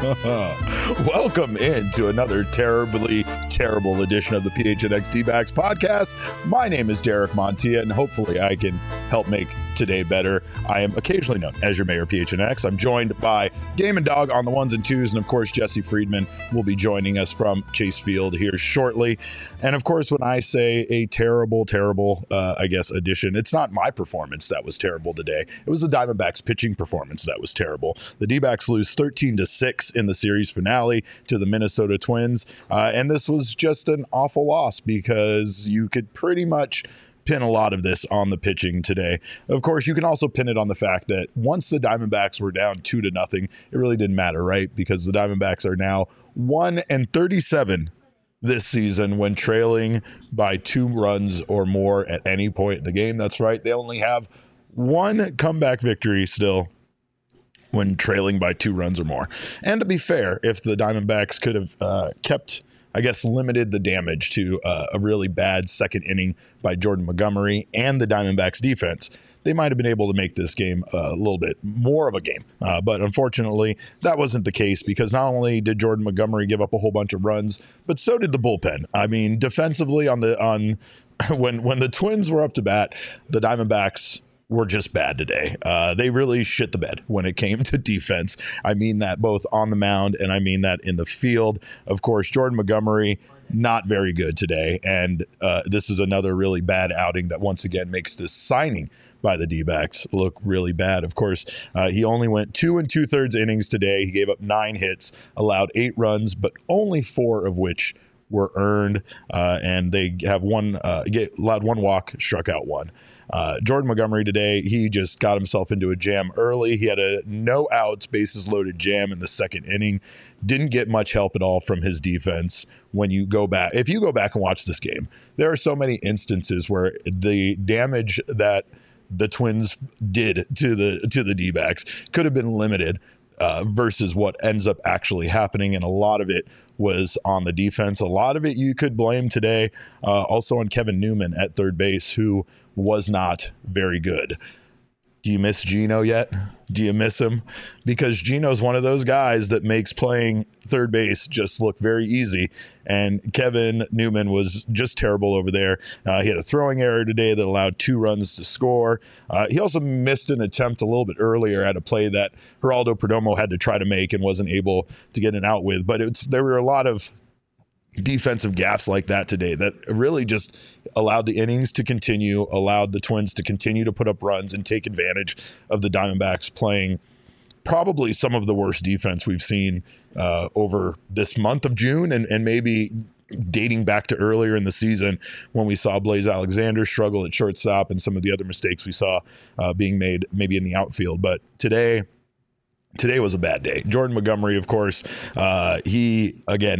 Welcome into another terribly terrible edition of the PHNX D-backs podcast. My name is Derek Montilla, and hopefully I can help make today better. I am occasionally known as your mayor, PHNX. I'm joined by Damon Dog on the ones and twos, and of course Jesse Friedman will be joining us from Chase Field here shortly. And of course, when I say a terrible edition, it's not my performance that was terrible today. It was the Diamondbacks pitching performance that was terrible. The D-backs lose 13-6 in the series finale to the Minnesota Twins, and this was just an awful loss because you could pretty much pin a lot of this on the pitching today. Of course, you can also pin it on the fact that once the Diamondbacks were down 2-0, it really didn't matter, right? Because the Diamondbacks are now 1-37 this season when trailing by 2 runs or more at any point in the game. That's right. They only have one comeback victory still when trailing by 2 runs or more. And to be fair, if the Diamondbacks could have limited the damage to a really bad second inning by Jordan Montgomery and the Diamondbacks defense, they might have been able to make this game a little bit more of a game. But unfortunately, that wasn't the case because not only did Jordan Montgomery give up a whole bunch of runs, but so did the bullpen. I mean, defensively when the Twins were up to bat, the Diamondbacks were just bad today. They really shit the bed when it came to defense. I mean that both on the mound and I mean that in the field. Of course, Jordan Montgomery, not very good today. And this is another really bad outing that once again makes this signing by the D-backs look really bad. Of course, he only went 2 2/3 innings today. He gave up 9 hits, allowed 8 runs, but only 4 of which were earned. And they have allowed 1 walk, struck out 1. Jordan Montgomery today, he just got himself into a jam early. He had a no outs, bases loaded jam in the second inning. Didn't get much help at all from his defense. If you go back and watch this game, there are so many instances where the damage that the Twins did to the D-backs could have been limited versus what ends up actually happening. And a lot of it was on the defense. A lot of it you could blame today also on Kevin Newman at third base, who was not very good. Do you miss Gino yet? Do you miss him? Because Gino's one of those guys that makes playing third base just look very easy. And Kevin Newman was just terrible over there. He had a throwing error today that allowed 2 runs to score. He also missed an attempt a little bit earlier at a play that Geraldo Perdomo had to try to make and wasn't able to get an out with. But there were a lot of defensive gaffes like that today that really just allowed the innings to continue, allowed the Twins to continue to put up runs and take advantage of the Diamondbacks playing probably some of the worst defense we've seen over this month of June and maybe dating back to earlier in the season when we saw Blaze Alexander struggle at shortstop and some of the other mistakes we saw being made maybe in the outfield. But today was a bad day. Jordan Montgomery, of course, he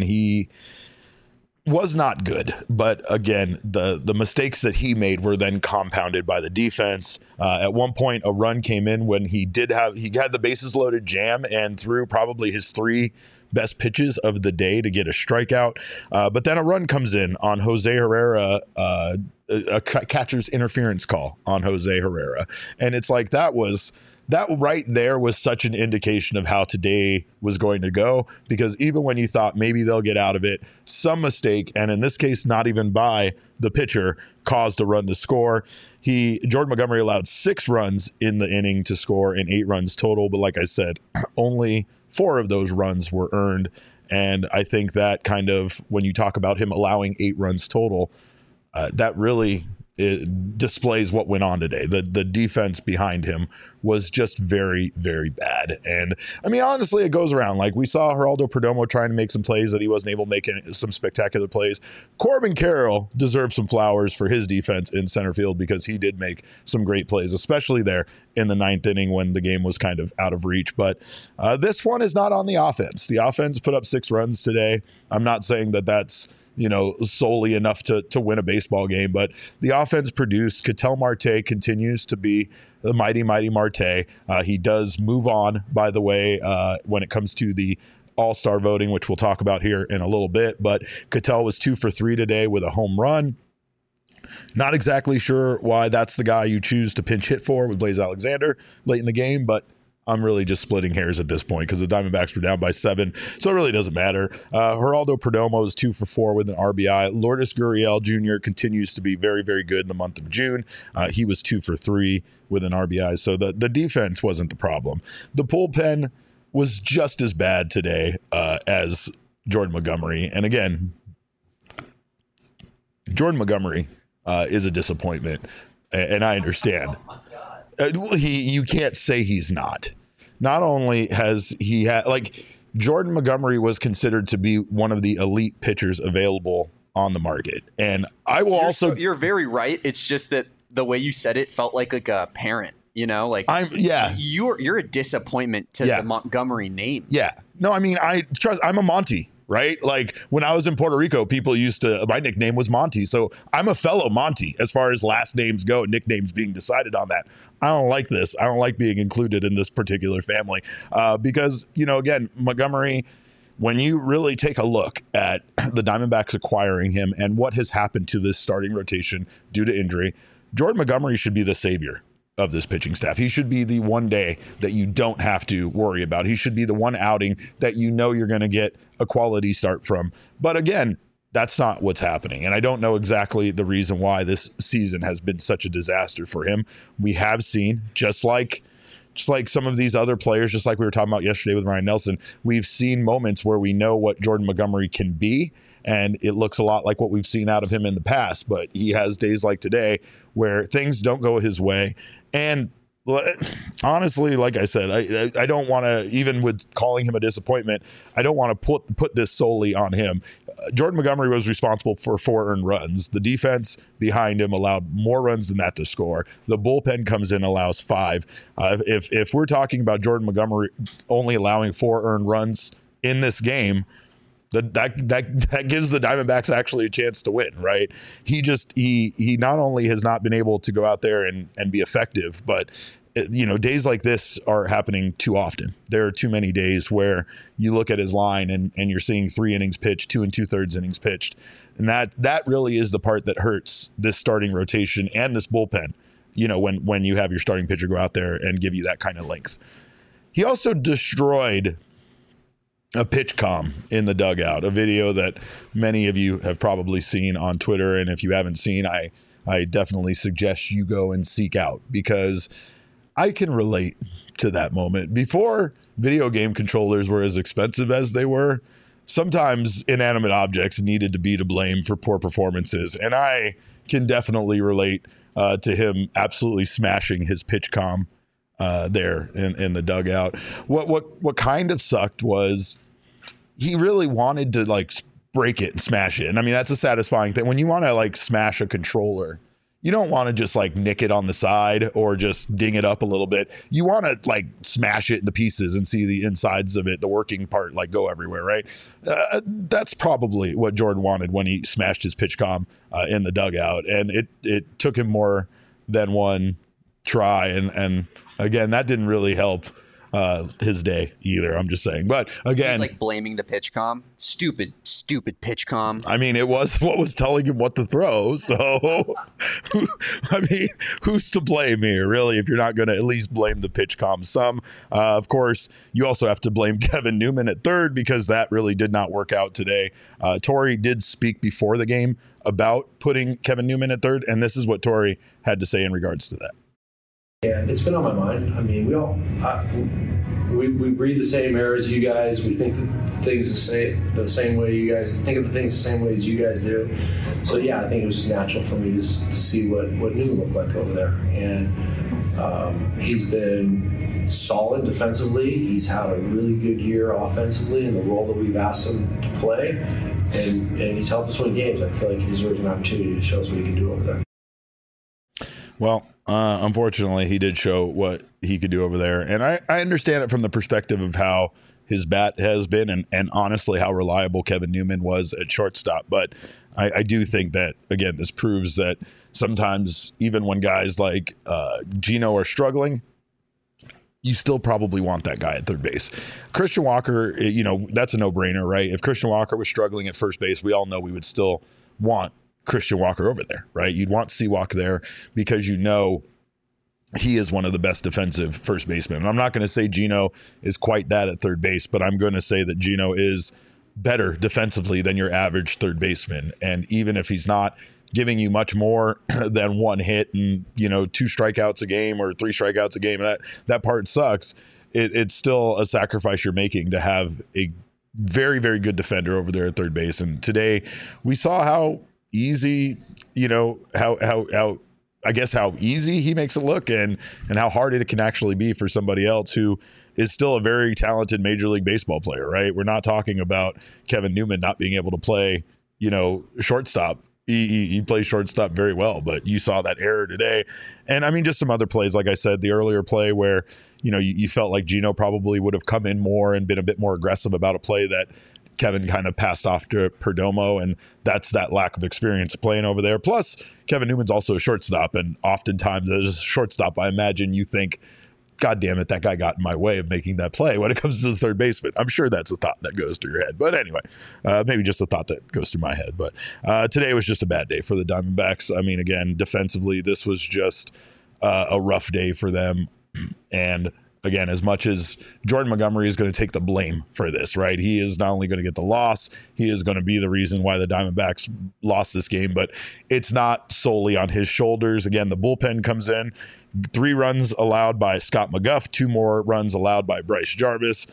was not good, but again, the mistakes that he made were then compounded by the defense. At one point, a run came in when he had the bases loaded jam and threw probably his 3 best pitches of the day to get a strikeout. But then a run comes in on Jose Herrera, a catcher's interference call on Jose Herrera, and it's like that right there was such an indication of how today was going to go, because even when you thought maybe they'll get out of it, some mistake, and in this case, not even by the pitcher, caused a run to score. Jordan Montgomery allowed 6 runs in the inning to score and 8 runs total. But like I said, only 4 of those runs were earned. And I think that kind of, when you talk about him allowing 8 runs total, that really displays what went on today. The defense behind him was just very, very bad. And I mean, honestly, it goes around. Like, we saw Geraldo Perdomo trying to make some plays that he wasn't able to make, some spectacular plays. Corbin Carroll deserves some flowers for his defense in center field, because he did make some great plays, especially there in the 9th inning when the game was kind of out of reach. But this one is not on the offense. The offense put up 6 runs today. I'm not saying that that's solely enough to win a baseball game, but the offense produced. Ketel Marte continues to be the mighty, mighty Marte. He does move on, by the way, when it comes to the All-Star voting, which we'll talk about here in a little bit. But Ketel was 2 for 3 today with a home run. Not exactly sure why that's the guy you choose to pinch hit for with Blaze Alexander late in the game, but I'm really just splitting hairs at this point because the Diamondbacks were down by 7, so it really doesn't matter. Geraldo Perdomo is 2 for 4 with an RBI. Lourdes Gurriel Jr. continues to be very, very good in the month of June. He was 2 for 3 with an RBI, so the defense wasn't the problem. The bullpen was just as bad today as Jordan Montgomery, and again, Jordan Montgomery is a disappointment, and I understand. You can't say he's not. Not only has he had, like, Jordan Montgomery was considered to be one of the elite pitchers available on the market. And I will you're very right. It's just that the way you said it felt like a parent, you know, like you're a disappointment to the Montgomery name. Yeah. No, I mean, I'm a Monty. Right? Like when I was in Puerto Rico, people my nickname was Monty. So I'm a fellow Monty as far as last names go, nicknames being decided on that. I don't like this. I don't like being included in this particular family because, again, Montgomery, when you really take a look at the Diamondbacks acquiring him and what has happened to this starting rotation due to injury, Jordan Montgomery should be the savior of this pitching staff. He should be the one day that you don't have to worry about. He should be the one outing that you're going to get a quality start from. But again, that's not what's happening. And I don't know exactly the reason why this season has been such a disaster for him. We have seen, just like some of these other players, just like we were talking about yesterday with Ryan Nelson, we've seen moments where we know what Jordan Montgomery can be. And it looks a lot like what we've seen out of him in the past. But he has days like today where things don't go his way. And honestly, like I said, I don't want to, even with calling him a disappointment, I don't want to put this solely on him. Jordan Montgomery was responsible for 4 earned runs. The defense behind him allowed more runs than that to score. The bullpen comes in, allows 5. If we're talking about Jordan Montgomery only allowing 4 earned runs in this game, that gives the Diamondbacks actually a chance to win, right? He not only has not been able to go out there and be effective, but days like this are happening too often. There are too many days where you look at his line and you're seeing 3 innings pitched, 2 2/3 innings pitched. And that really is the part that hurts this starting rotation and this bullpen, when you have your starting pitcher go out there and give you that kind of length. He also destroyed a pitch comm in the dugout, a video that many of you have probably seen on Twitter. And if you haven't seen, I definitely suggest you go and seek out, because I can relate to that moment. Before video game controllers were as expensive as they were, sometimes inanimate objects needed to be to blame for poor performances. And I can definitely relate to him absolutely smashing his pitch comm there in the dugout. What kind of sucked was he really wanted to break it and smash it. And I mean, that's a satisfying thing. When you want to smash a controller, you don't want to just nick it on the side or just ding it up a little bit. You want to smash it into pieces and see the insides of it, the working part, go everywhere, right? That's probably what Jordan wanted when he smashed his pitch comm in the dugout. And it took him more than one try. And again, that didn't really help his day either. I'm just saying. But again, he's blaming the pitch comm. Stupid pitch comm. I mean, it was what was telling him what to throw. So, I mean, who's to blame here, really, if you're not going to at least blame the pitch comm some? Of course, you also have to blame Kevin Newman at third, because that really did not work out today. Torey did speak before the game about putting Kevin Newman at third, and this is what Torey had to say in regards to that. Yeah, it's been on my mind. I mean, we breathe the same air as you guys. We think of things the same way you guys think of the things the same way as you guys do. So yeah, I think it was just natural for me to see what Newman looked like over there. And he's been solid defensively. He's had a really good year offensively in the role that we've asked him to play, and he's helped us win games. I feel like he deserves an opportunity to show us what he can do over there. Well, unfortunately, he did show what he could do over there. And I understand it from the perspective of how his bat has been and honestly how reliable Kevin Newman was at shortstop. But I do think that, again, this proves that sometimes even when guys like Gino are struggling, you still probably want that guy at third base. Christian Walker, that's a no-brainer, right? If Christian Walker was struggling at first base, we all know we would still want Christian Walker over there, right? You'd want Seawalk there because he is one of the best defensive first basemen. And I'm not going to say Gino is quite that at third base, but I'm going to say that Gino is better defensively than your average third baseman. And even if he's not giving you much more than one hit and, 2 strikeouts a game or 3 strikeouts a game, that part sucks. It's still a sacrifice you're making to have a very, very good defender over there at third base. And today we saw how easy, how easy he makes it look and how hard it can actually be for somebody else who is still a very talented Major League Baseball player, right? We're not talking about Kevin Newman not being able to play, shortstop. He plays shortstop very well, but you saw that error today. And I mean, just some other plays, like I said, the earlier play where, you felt like Gino probably would have come in more and been a bit more aggressive about a play that Kevin kind of passed off to Perdomo, and that's that lack of experience playing over there. Plus, Kevin Newman's also a shortstop, and oftentimes as a shortstop, I imagine you think, God damn it, that guy got in my way of making that play when it comes to the third baseman. I'm sure that's a thought that goes through your head. But anyway, maybe just a thought that goes through my head. But today was just a bad day for the Diamondbacks. I mean, again, defensively, this was just a rough day for them. And again, as much as Jordan Montgomery is going to take the blame for this, right? He is not only going to get the loss, he is going to be the reason why the Diamondbacks lost this game, but it's not solely on his shoulders. Again, the bullpen comes in, 3 runs allowed by Scott McGough, 2 more runs allowed by Bryce Jarvis.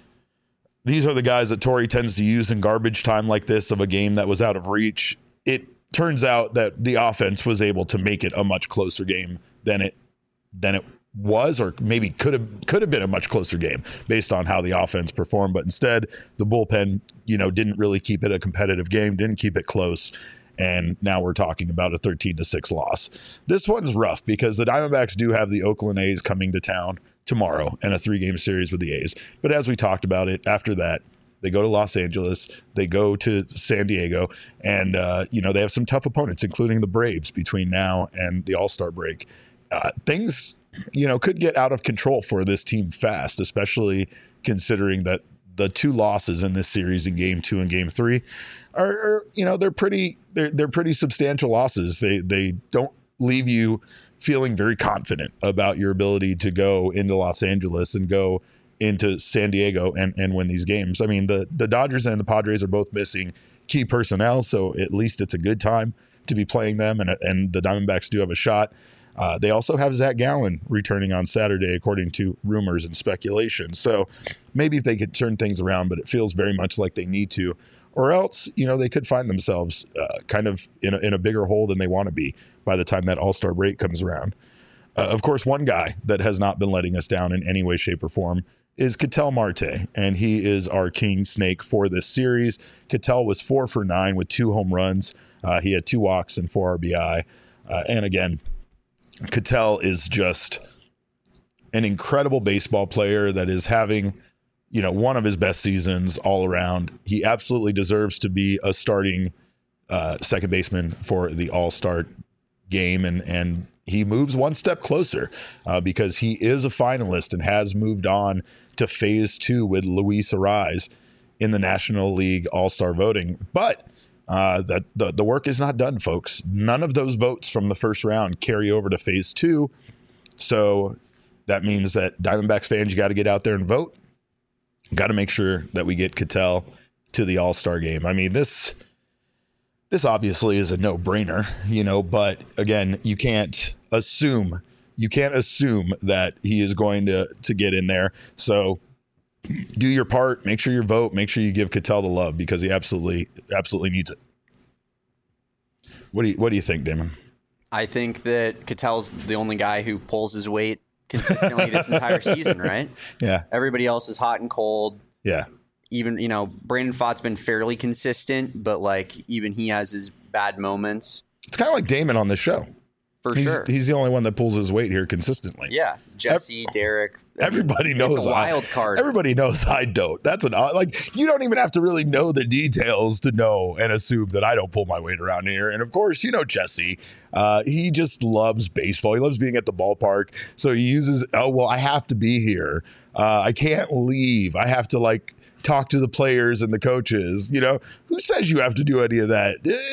These are the guys that Torey tends to use in garbage time like this of a game that was out of reach. It turns out that the offense was able to make it a much closer game than it was, or maybe could have been a much closer game based on how the offense performed. But instead, the bullpen, didn't really keep it a competitive game, didn't keep it close. And now we're talking about a 13-6 loss. This one's rough because the Diamondbacks do have the Oakland A's coming to town tomorrow and a 3-game series with the A's. But as we talked about it, after that, they go to Los Angeles, they go to San Diego, and, they have some tough opponents, including the Braves between now and the All-Star break. Things could get out of control for this team fast, especially considering that the 2 losses in this series in Game 2 and Game 3 are they're pretty substantial losses. They don't leave you feeling very confident about your ability to go into Los Angeles and go into San Diego and win these games. I mean, the Dodgers and the Padres are both missing key personnel, so at least it's a good time to be playing them, and the Diamondbacks do have a shot. They also have Zach Gallen returning on Saturday, according to rumors and speculation. So maybe they could turn things around, but it feels very much like they need to. Or else, they could find themselves kind of in a bigger hole than they want to be by the time that All-Star break comes around. Of course, one guy that has not been letting us down in any way, shape, or form is Ketel Marte, and he is our king snake for this series. Ketel was 4 for 9 with 2 home runs. He had 2 walks and 4 RBI. And again, Ketel is just an incredible baseball player that is having, one of his best seasons all around. He absolutely deserves to be a starting second baseman for the All-Star game. And he moves one step closer because he is a finalist and has moved on to phase 2 with Luis Arraez in the National League All-Star voting. But that the work is not done, folks. None of those votes from the first round carry over to phase 2. So that means that Diamondbacks fans, you got to get out there and vote. Got to make sure that we get Ketel to the All-Star game. I mean, this obviously is a no-brainer, but again, you can't assume that he is going to get in there. So do your part, make sure you vote, make sure you give Ketel the love because he absolutely needs it. What do you think, Damon? I think that Ketel's the only guy who pulls his weight consistently this entire season, right? Yeah. Everybody else is hot and cold. Yeah. Even, Brandon Pfaadt's been fairly consistent, but even he has his bad moments. It's kind of like Damon on this show. Sure. He's the only one that pulls his weight here consistently. Yeah. Jesse, Derek. Everybody knows. It's a wild card. Everybody knows I don't. That's you don't even have to really know the details to know and assume that I don't pull my weight around here. And of course, Jesse, he just loves baseball. He loves being at the ballpark. So he uses, I have to be here. I can't leave. I have to talk to the players and the coaches. Who says you have to do any of that?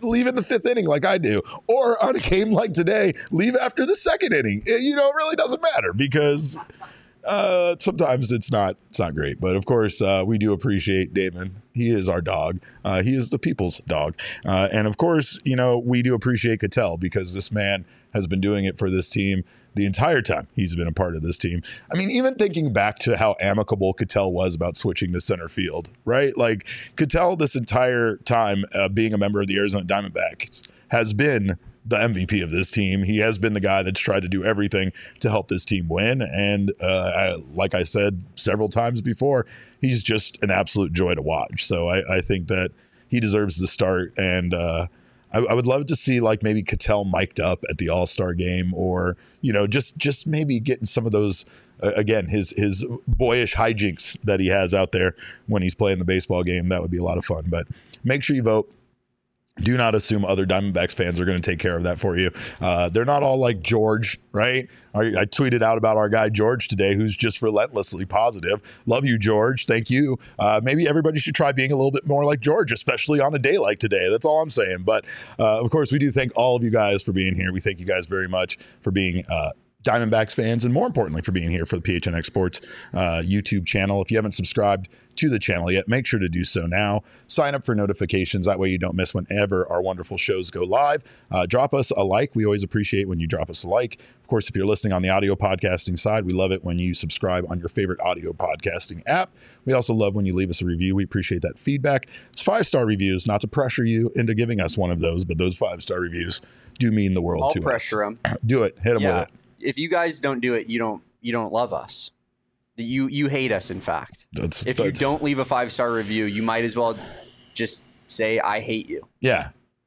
leave in the 5th inning like I do. Or on a game like today, leave after the 2nd inning. It really doesn't matter because sometimes it's not great. But of course, we do appreciate Damon. He is our dog. He is the people's dog. And of course, we do appreciate Ketel because this man has been doing it for this team the entire time he's been a part of this team. I mean, even thinking back to how amicable Ketel was about switching to center field, right? Like Ketel this entire time being a member of the Arizona Diamondbacks has been the MVP of this team. He has been the guy that's tried to do everything to help this team win. And like I said several times before, he's just an absolute joy to watch. So I think that he deserves the start. And I would love to see like maybe Ketel mic'd up at the All-Star game or, just maybe getting some of those, again, his boyish hijinks that he has out there when he's playing the baseball game. That would be a lot of fun. But make sure you vote. Do not assume other Diamondbacks fans are going to take care of that for you. They're not all like George, right? I tweeted out about our guy George today, who's just relentlessly positive. Love you, George. Thank you. Maybe everybody should try being a little bit more like George, especially on a day like today. That's all I'm saying. But of course, we do thank all of you guys for being here. We thank you guys very much for being Diamondbacks fans, and more importantly for being here for the PHNX Sports YouTube channel. If you haven't subscribed to the channel yet, make sure to do so now. Sign up for notifications. That way you don't miss whenever our wonderful shows go live. Drop us a like. We always appreciate when you drop us a like. Of course, if you're listening on the audio podcasting side, we love it when you subscribe on your favorite audio podcasting app. We also love when you leave us a review. We appreciate that feedback. It's 5-star reviews, not to pressure you into giving us one of those, but those 5-star reviews do mean the world to us. I'll pressure them. Do it. Hit them with it. If you guys don't do it, you don't love us. You hate us, in fact. If you don't leave a 5-star review, you might as well just say, I hate you. Yeah.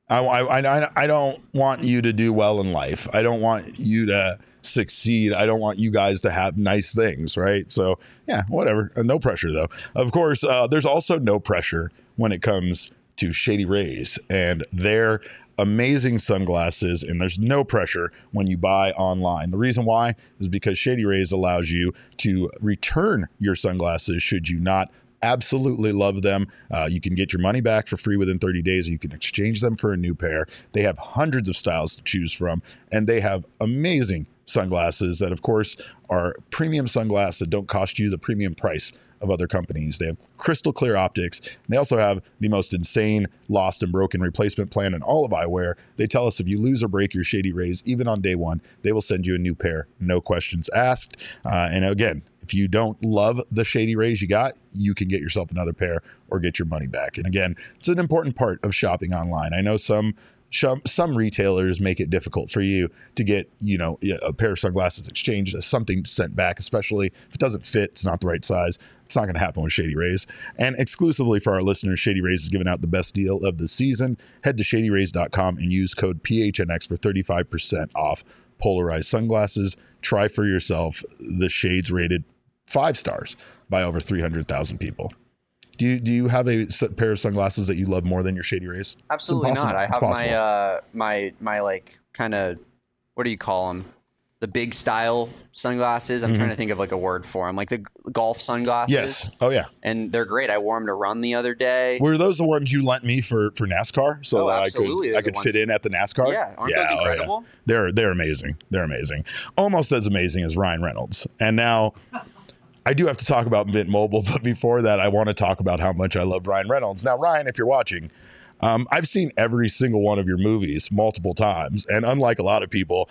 I don't want you to do well in life. I don't want you to succeed. I don't want you guys to have nice things, right? So, yeah, whatever. No pressure, though. Of course, there's also no pressure when it comes to Shady Rays and their amazing sunglasses, and there's no pressure when you buy online. The reason why is because Shady Rays allows you to return your sunglasses should you not absolutely love them. You can get your money back for free within 30 days, or you can exchange them for a new pair. They have hundreds of styles to choose from, and they have amazing sunglasses that, of course, are premium sunglasses that don't cost you the premium price of other companies. They have crystal clear optics. And they also have the most insane lost and broken replacement plan in all of eyewear. They tell us if you lose or break your Shady Rays, even on day one, they will send you a new pair, no questions asked. And again, if you don't love the Shady Rays you got, you can get yourself another pair or get your money back. And again, it's an important part of shopping online. I know some retailers make it difficult for you to get, a pair of sunglasses exchanged, something sent back, especially if it doesn't fit, it's not the right size. It's not going to happen with Shady Rays. And exclusively for our listeners, Shady Rays is giving out the best deal of the season. Head to shadyrays.com and use code PHNX for 35% off polarized sunglasses. Try for yourself the shades rated 5 stars by over 300,000 people. Do you have a pair of sunglasses that you love more than your Shady Rays? Absolutely not. I have my like kind of, what do you call them? The big style sunglasses. I'm trying to think of like a word for them, like the golf sunglasses. Yes. Oh yeah. And they're great. I wore them to run the other day. Were those the ones you lent me for NASCAR? So that I could fit in at the NASCAR? Yeah. Aren't those incredible? Yeah. They're amazing. They're amazing. Almost as amazing as Ryan Reynolds. And now I do have to talk about Mint Mobile, but before that, I want to talk about how much I love Ryan Reynolds. Now, Ryan, if you're watching, I've seen every single one of your movies multiple times. And unlike a lot of people,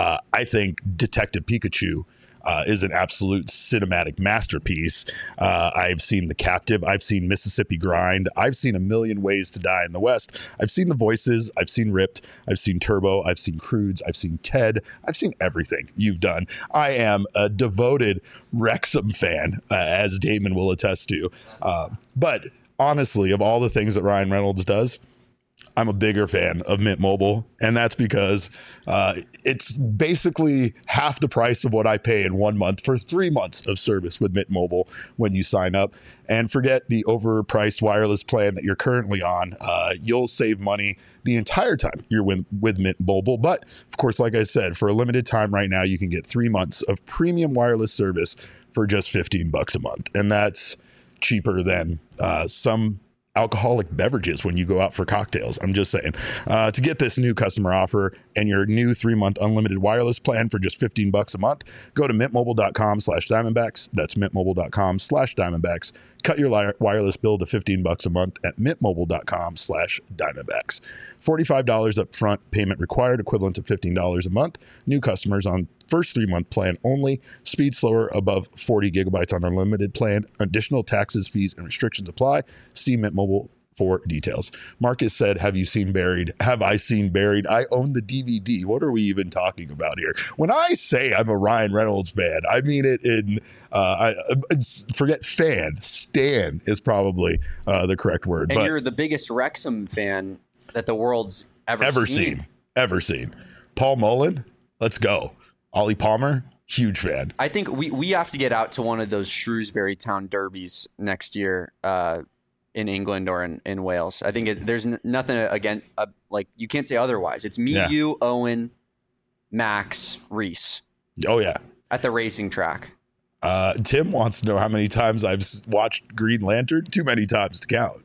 I think Detective Pikachu is an absolute cinematic masterpiece. I've seen The Captive. I've seen Mississippi Grind. I've seen A Million Ways to Die in the West. I've seen The Voices. I've seen Ripped. I've seen Turbo. I've seen Croods. I've seen Ted. I've seen everything you've done. I am a devoted Wrexham fan, as Damon will attest to. But honestly, of all the things that Ryan Reynolds does, I'm a bigger fan of Mint Mobile, and that's because it's basically half the price of what I pay in 1 month for 3 months of service with Mint Mobile when you sign up. And forget the overpriced wireless plan that you're currently on. You'll save money the entire time you're with Mint Mobile. But of course, like I said, for a limited time right now, you can get 3 months of premium wireless service for just $15 a month. And that's cheaper than some alcoholic beverages when you go out for cocktails. I'm just saying. To get this new customer offer and your new 3-month unlimited wireless plan for just $15 a month, go to mintmobile.com/Diamondbacks. That's mintmobile.com/Diamondbacks. Cut your wireless bill to $15 a month at mintmobile.com/Diamondbacks. $45 up front, payment required, equivalent to $15 a month. New customers on first 3-month plan only. Speed slower above 40 gigabytes on unlimited plan. Additional taxes, fees, and restrictions apply. See Mint Mobile for details. Marcus said, have you seen Buried? Have I seen Buried? I own the DVD. What are we even talking about here? When I say I'm a Ryan Reynolds fan, I mean it in, forget fan, stan is probably the correct word. And you're the biggest Wrexham fan that the world's ever seen. Paul Mullen, let's go. Ollie Palmer, huge fan. I think we have to get out to one of those Shrewsbury Town derbies next year in England or in Wales. I think there's nothing again, like you can't say otherwise. It's me, you, Owen, Max, Reese. Oh yeah, at the racing track. Tim wants to know how many times I've watched Green Lantern. Too many times to count.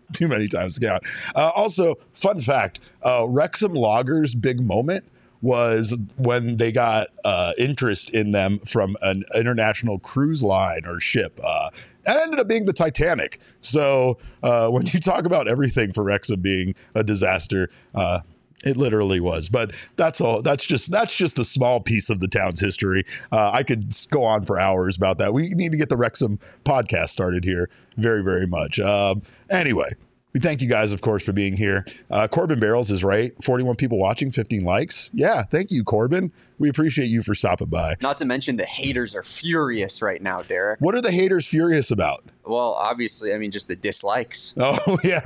Also, fun fact, Wrexham Lager's big moment was when they got interest in them from an international cruise line or ship. That ended up being the Titanic. So when you talk about everything for Wrexham being a disaster, it literally was. But that's all. That's just a small piece of the town's history. I could go on for hours about that. We need to get the Wrexham podcast started here very, very much. Anyway, we thank you guys, of course, for being here. Corbin Barrels is right. 41 people watching, 15 likes. Yeah, thank you, Corbin. We appreciate you for stopping by. Not to mention the haters are furious right now, Derek. What are the haters furious about? Well, obviously, I mean, just the dislikes. Oh, yeah,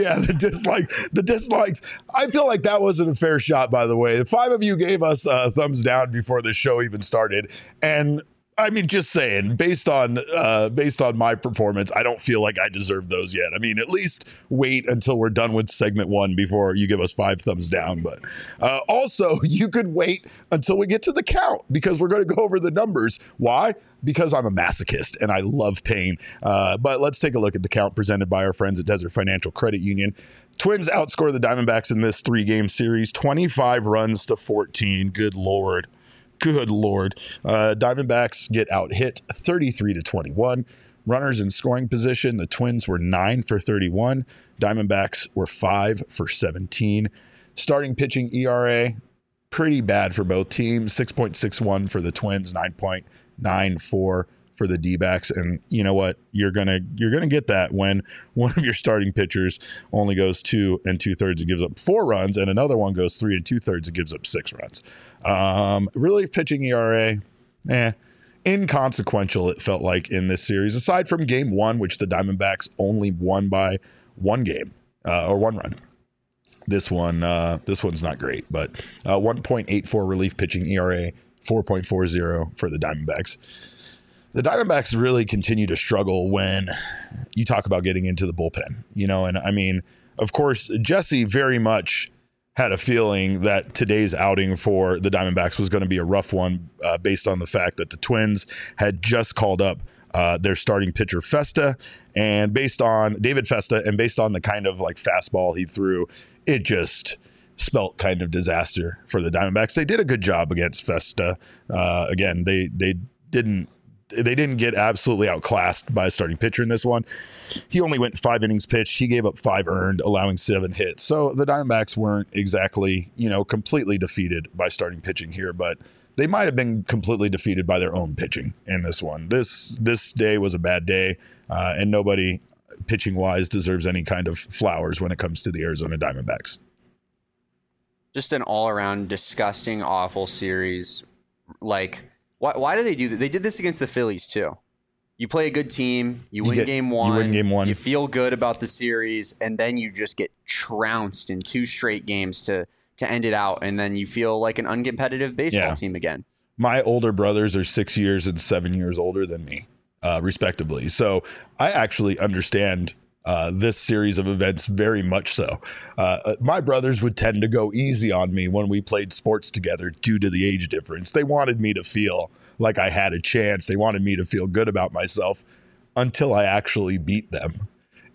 the dislikes. I feel like that wasn't a fair shot, by the way. The 5 of you gave us a thumbs down before the show even started. And I mean, just saying, based on my performance, I don't feel like I deserve those yet. I mean, at least wait until we're done with segment 1 before you give us 5 thumbs down. But also, you could wait until we get to the count because we're going to go over the numbers. Why? Because I'm a masochist and I love pain. But let's take a look at the count presented by our friends at Desert Financial Credit Union. Twins outscore the Diamondbacks in this 3-game series, 25 runs to 14. Good Lord. Diamondbacks get out hit 33-21. Runners in scoring position, the Twins were 9 for 31. Diamondbacks were 5 for 17. Starting pitching ERA, pretty bad for both teams. 6.61 for the Twins, 9.94 for the D-backs. And you know what? You're gonna get that when one of your starting pitchers only goes 2 2/3 and gives up 4 runs, and another one goes 3 2/3 and gives up 6 runs. Relief pitching ERA, inconsequential, it felt like in this series, aside from game 1, which the Diamondbacks only won by 1 game or 1 run. This one's not great, but 1.84 relief pitching ERA, 4.40 for the Diamondbacks. The Diamondbacks really continue to struggle when you talk about getting into the bullpen, and I mean, of course, Jesse very much had a feeling that today's outing for the Diamondbacks was going to be a rough one based on the fact that the Twins had just called up their starting pitcher Festa, and based on David Festa, and based on the kind of like fastball he threw, it just spelt kind of disaster for the Diamondbacks. They did a good job against Festa. Again, they didn't get absolutely outclassed by a starting pitcher in this one. He only went 5 innings pitched. He gave up 5 earned, allowing 7 hits. So the Diamondbacks weren't exactly, completely defeated by starting pitching here, but they might have been completely defeated by their own pitching in this one. This day was a bad day, and nobody pitching-wise deserves any kind of flowers when it comes to the Arizona Diamondbacks. Just an all-around disgusting, awful series. Like, why do they do that? They did this against the Phillies too. You play a good team, you win game one, you feel good about the series, and then you just get trounced in 2 straight games to end it out, and then you feel like an uncompetitive baseball team again. My older brothers are 6 years and 7 years older than me, respectively. So I actually understand this series of events very much so. My brothers would tend to go easy on me when we played sports together due to the age difference. They wanted me to feel like I had a chance. They wanted me to feel good about myself until I actually beat them.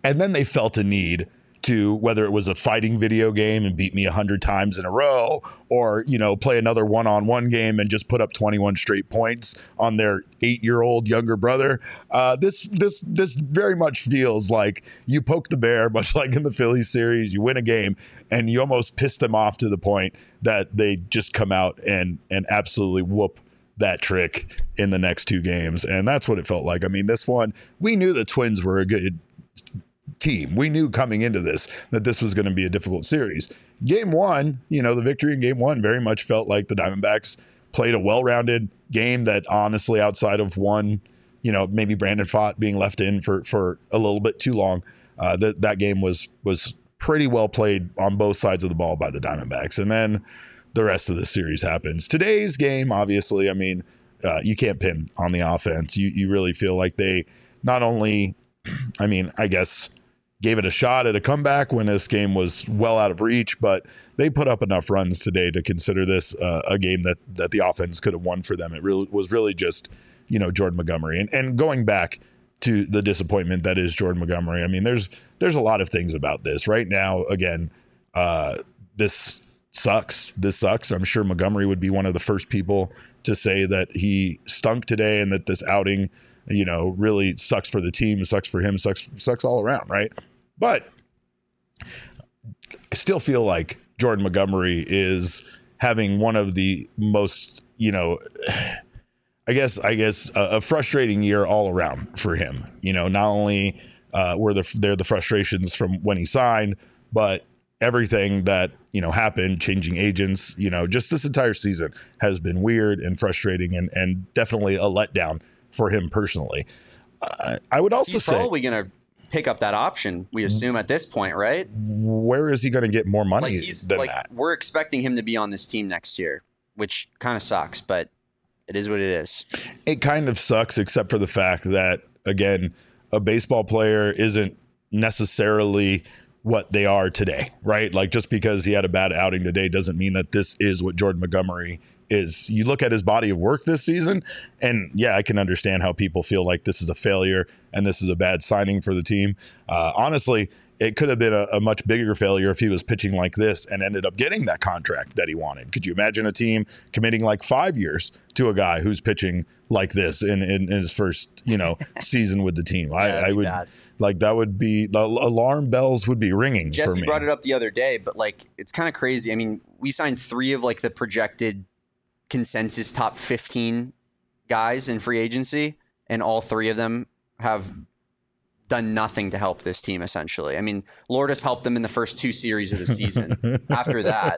And then they felt a need to, whether it was a fighting video game and beat me 100 times in a row, or, play another one-on-one game and just put up 21 straight points on their 8-year-old younger brother. This very much feels like you poke the bear, much like in the Phillies series. You win a game and you almost piss them off to the point that they just come out and absolutely whoop that trick in the next 2 games. And that's what it felt like. I mean, this one, we knew the Twins were a good team. We knew coming into this that this was going to be a difficult series. Game 1, the victory in Game 1 very much felt like the Diamondbacks played a well-rounded game that honestly, outside of one, maybe Brandon Pfaadt being left in for a little bit too long, that game was pretty well played on both sides of the ball by the Diamondbacks. And then the rest of the series happens. Today's game, obviously, I mean, you can't pin on the offense. You really feel like they not only, I guess, gave it a shot at a comeback when this game was well out of reach, but they put up enough runs today to consider this a game that the offense could have won for them. It really was just, Jordan Montgomery. And going back to the disappointment that is Jordan Montgomery, I mean, there's a lot of things about this. Right now, again, this sucks. I'm sure Montgomery would be one of the first people to say that he stunk today and that this outing, really sucks for the team, sucks for him, sucks all around, right? But I still feel like Jordan Montgomery is having one of the most, I guess a frustrating year all around for him. Not only were there the frustrations from when he signed, but everything that, happened, changing agents, just this entire season has been weird and frustrating and definitely a letdown for him personally. I would also say probably going to pick up that option, we assume at this point, right? Where is he going to get more money than that? We're expecting him to be on this team next year, which kind of sucks, but it is what it is. It kind of sucks, except for the fact that, again, a baseball player isn't necessarily what they are today, right? Like, just because he had a bad outing today doesn't mean that this is what Jordan Montgomery is. You look at his body of work this season, and yeah, I can understand how people feel like this is a failure and this is a bad signing for the team. Honestly, it could have been a much bigger failure if he was pitching like this and ended up getting that contract that he wanted. Could you imagine a team committing like 5 years to a guy who's pitching like this in his first, season with the team? I would bad. Like, that would be, the alarm bells would be ringing. Jesse for me. Brought it up the other day, but it's kind of crazy. I mean, we signed 3 of the projected consensus top 15 guys in free agency, and all 3 of them have done nothing to help this team, essentially. I mean, Lourdes helped them in the first 2 series of the season. After that,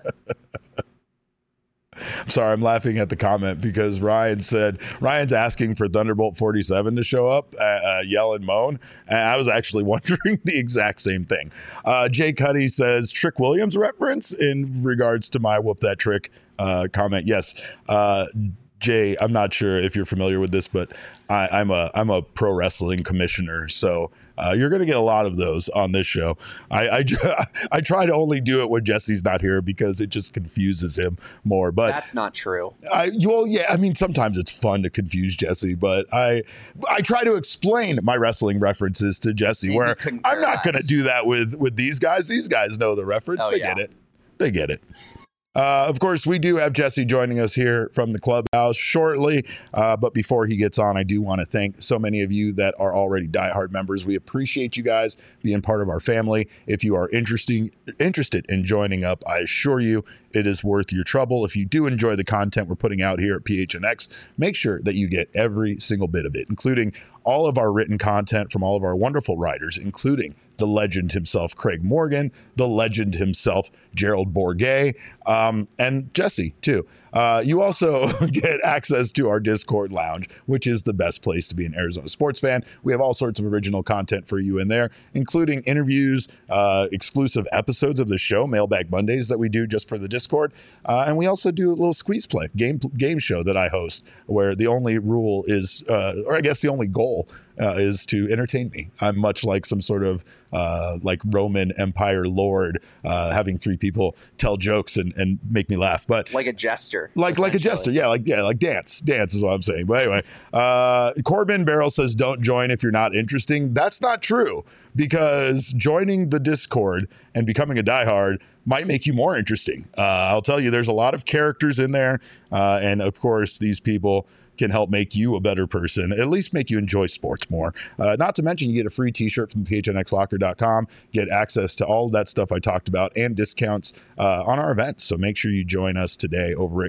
I'm sorry, I'm laughing at the comment because Ryan's asking for Thunderbolt 47 to show up, yell and moan. And I was actually wondering the exact same thing. Jay Cuddy says Trick Williams reference in regards to my whoop that trick comment. Yes. Jay, I'm not sure if you're familiar with this, but I'm a pro wrestling commissioner, so you're going to get a lot of those on this show. I try to only do it when Jesse's not here because it just confuses him more. But that's not true. Yeah, I mean, sometimes it's fun to confuse Jesse, but I try to explain my wrestling references to Jesse, maybe where I'm not going to do that with these guys. These guys know the reference. They get it. Of course, we do have Jesse joining us here from the clubhouse shortly. But before he gets on, I do want to thank so many of you that are already diehard members. We appreciate you guys being part of our family. If you are interested in joining up, I assure you it is worth your trouble. If you do enjoy the content we're putting out here at PHNX, make sure that you get every single bit of it, including all of our written content from all of our wonderful writers, including the legend himself, Craig Morgan, the legend himself, Gerald Bourguet, and Jesse, too. You also get access to our Discord lounge, which is the best place to be an Arizona sports fan. We have all sorts of original content for you in there, including interviews, exclusive episodes of the show, Mailbag Mondays, that we do just for the Discord. And we also do a little squeeze play game show that I host, where the only rule is, or I guess the only goal is to entertain me. I'm much like some sort of like Roman Empire lord, having three people tell jokes and make me laugh. But like a jester, like a jester, like dance is what I'm saying. But anyway, Corbin Barrel says don't join if you're not interesting. That's not true, because joining the Discord and becoming a diehard might make you more interesting. I'll tell you, there's a lot of characters in there, and of course these people can help make you a better person, at least make you enjoy sports more. Not to mention, you get a free t-shirt from phnxlocker.com, get access to all of that stuff I talked about, and discounts on our events. So make sure you join us today over at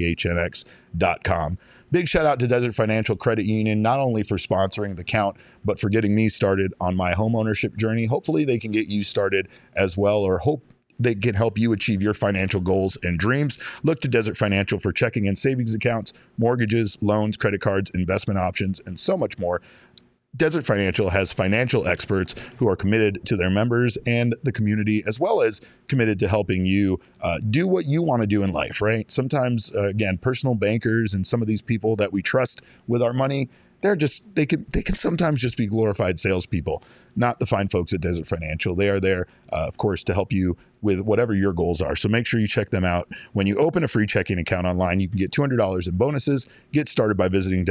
gophnx.com. Big shout out to Desert Financial Credit Union, not only for sponsoring the count, but for getting me started on my home ownership journey. Hopefully they can get you started as well, or hope they can help you achieve your financial goals and dreams. Look to Desert Financial for checking and savings accounts, mortgages, loans, credit cards, investment options, and so much more. Desert Financial has financial experts who are committed to their members and the community, as well as committed to helping you do what you want to do in life, right? Sometimes, again, personal bankers and some of these people that we trust with our money, they can sometimes just be glorified salespeople, not the fine folks at Desert Financial. They are there, of course, to help you with whatever your goals are. So make sure you check them out. When you open a free checking account online, you can get $200 in bonuses. Get started by visiting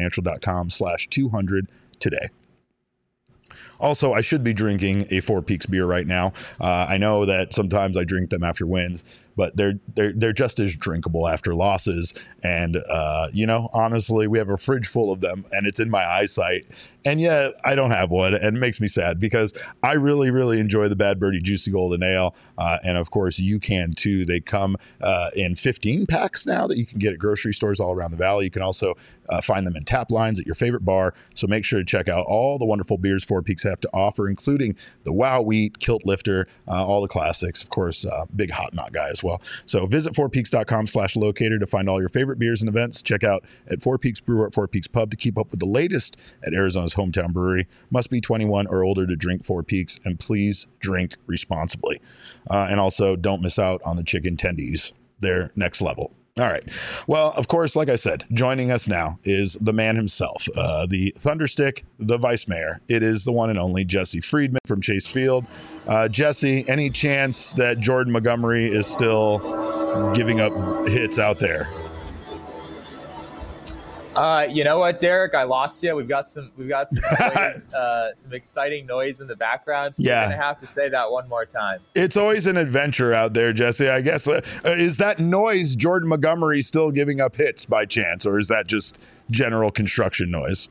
desertfinancial.com/200 today. Also, I should be drinking a Four Peaks beer right now. I know that sometimes I drink them after wins, but they're just as drinkable after losses. And, honestly, we have a fridge full of them and it's in my eyesight. And yet I don't have one, and it makes me sad because I really, really enjoy the Bad Birdie Juicy Golden Ale. And of course you can too. They come in 15 packs now that you can get at grocery stores all around the valley. You can also find them in tap lines at your favorite bar. So make sure to check out all the wonderful beers Four Peaks have to offer, including the Wow Wheat, Kilt Lifter, all the classics, of course, big hot knot guy as well. So visit fourpeaks.com/locator to find all your favorite beers and events. Check out at Four Peaks Brewer at Four Peaks Pub to keep up with the latest at Arizona's hometown brewery. Must be 21 or older to drink Four Peaks, and please drink responsibly. And also don't miss out on the chicken tendies. They're next level. All right. Well, of course, like I said, joining us now is the man himself, the Thunderstick, the vice mayor. It is the one and only Jesse Friedman from Chase Field. Jesse, any chance that Jordan Montgomery is still giving up hits out there? You know what, Derek? I lost you. We've got some noise, some exciting noise in the background. So you're gonna have to say that one more time. It's always an adventure out there, Jesse. I guess is that noise Jordan Montgomery still giving up hits by chance, or is that just general construction noise?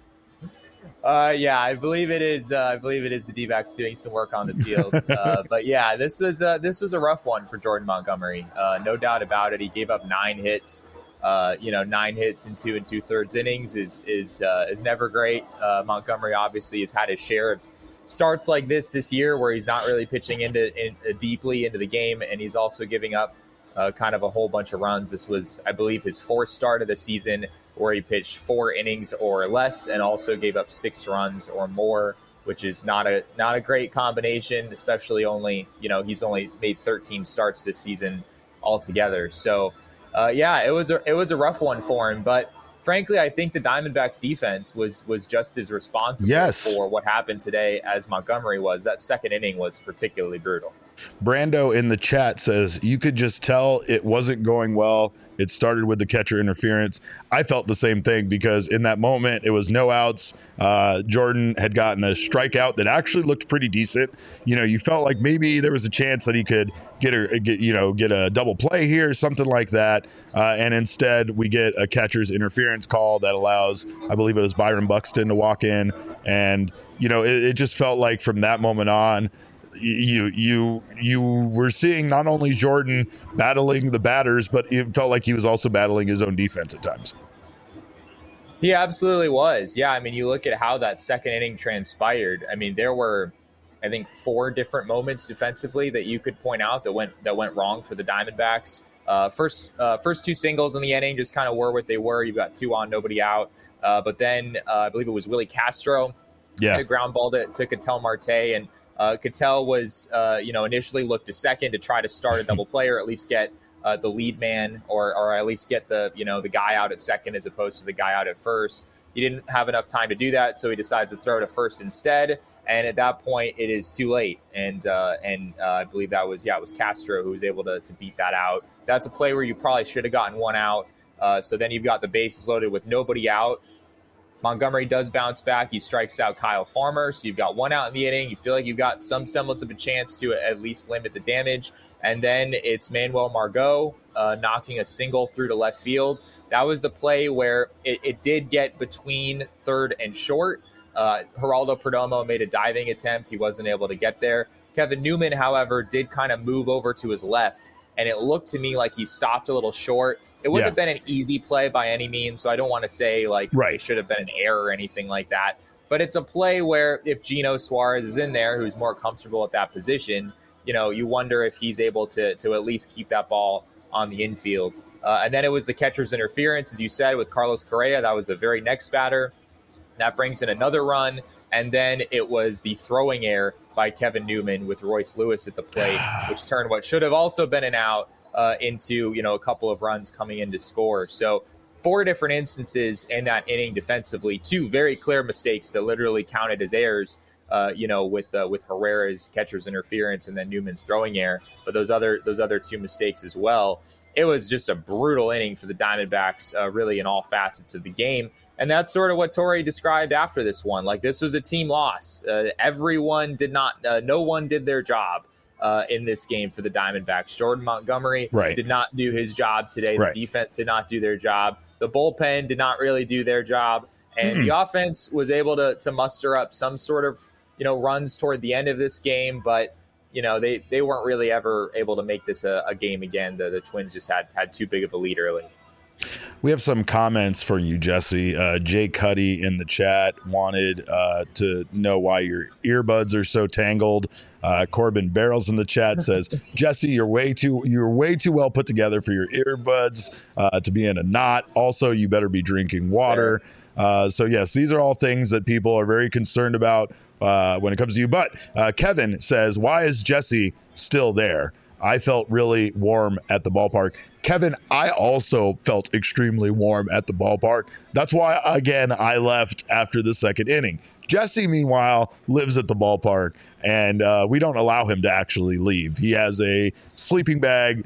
Yeah, I believe it is. I believe it is the D-backs doing some work on the field. But yeah, this was a rough one for Jordan Montgomery. No doubt about it. He gave up 9 hits. 9 hits in 2 2/3 innings is never great. Montgomery obviously has had his share of starts like this year, where he's not really pitching deeply into the game, and he's also giving up kind of a whole bunch of runs. This was, I believe, his 4th start of the season, where he pitched 4 innings or less, and also gave up 6 runs or more, which is not a great combination, especially he's only made 13 starts this season altogether. So. It was a rough one for him, but frankly, I think the Diamondbacks defense was just as responsible for what happened today as Montgomery was. That second inning was particularly brutal. Brando in the chat says you could just tell it wasn't going well. It started with the catcher interference. I felt the same thing because in that moment, it was no outs. Jordan had gotten a strikeout that actually looked pretty decent. You felt like maybe there was a chance that he could get a double play here, something like that. And instead, we get a catcher's interference call that allows, I believe it was Byron Buxton, to walk in. And, it just felt like from that moment on, you were seeing not only Jordan battling the batters, but it felt like he was also battling his own defense at times. He absolutely was. Yeah, I mean, you look at how that second inning transpired. I mean, there were, I think, 4 different moments defensively that you could point out that went wrong for the Diamondbacks. First 2 singles in the inning just kind of were what they were. You've got 2 on, nobody out. But then I believe it was Willie Castro. The ground ball to Ketel Marte, and Ketel was, initially looked to second to try to start a double play, or at least get the lead man, or at least get the guy out at second as opposed to the guy out at first. He didn't have enough time to do that, so he decides to throw to first instead. And at that point, it is too late. And I believe it was Castro who was able to beat that out. That's a play where you probably should have gotten one out. So then you've got the bases loaded with nobody out. Montgomery does bounce back. He strikes out Kyle Farmer. So you've got one out in the inning. You feel like you've got some semblance of a chance to at least limit the damage. And then it's Manuel Margot knocking a single through to left field. That was the play where it did get between third and short. Geraldo Perdomo made a diving attempt. He wasn't able to get there. Kevin Newman, however, did kind of move over to his left. And it looked to me like he stopped a little short. It wouldn't have been an easy play by any means, so I don't want to say it should have been an error or anything like that. But it's a play where if Gino Suarez is in there, who's more comfortable at that position, you wonder if he's able to at least keep that ball on the infield. And then it was the catcher's interference, as you said, with Carlos Correa. That was the very next batter. That brings in another run. And then it was the throwing error by Kevin Newman with Royce Lewis at the plate, which turned what should have also been an out into, a couple of runs coming in to score. So 4 different instances in that inning defensively, 2 very clear mistakes that literally counted as errors, with Herrera's catcher's interference and then Newman's throwing error. But those other 2 mistakes as well. It was just a brutal inning for the Diamondbacks, really in all facets of the game. And that's sort of what Torre described after this one. Like, this was a team loss. No one did their job in this game for the Diamondbacks. Jordan Montgomery did not do his job today. The defense did not do their job. The bullpen did not really do their job. And the offense was able to muster up some sort of, runs toward the end of this game. But, they weren't really ever able to make this a game again. The Twins just had too big of a lead early. We have some comments for you, Jesse. Jay Cuddy in the chat wanted to know why your earbuds are so tangled. Corbin Barrels in the chat says, Jesse, you're way too well put together for your earbuds to be in a knot. Also, you better be drinking water. So yes, these are all things that people are very concerned about when it comes to you. But Kevin says, why is Jesse still there? I felt really warm at the ballpark. Kevin, I also felt extremely warm at the ballpark. That's why, again, I left after the second inning. Jesse, meanwhile, lives at the ballpark, and we don't allow him to actually leave. He has a sleeping bag,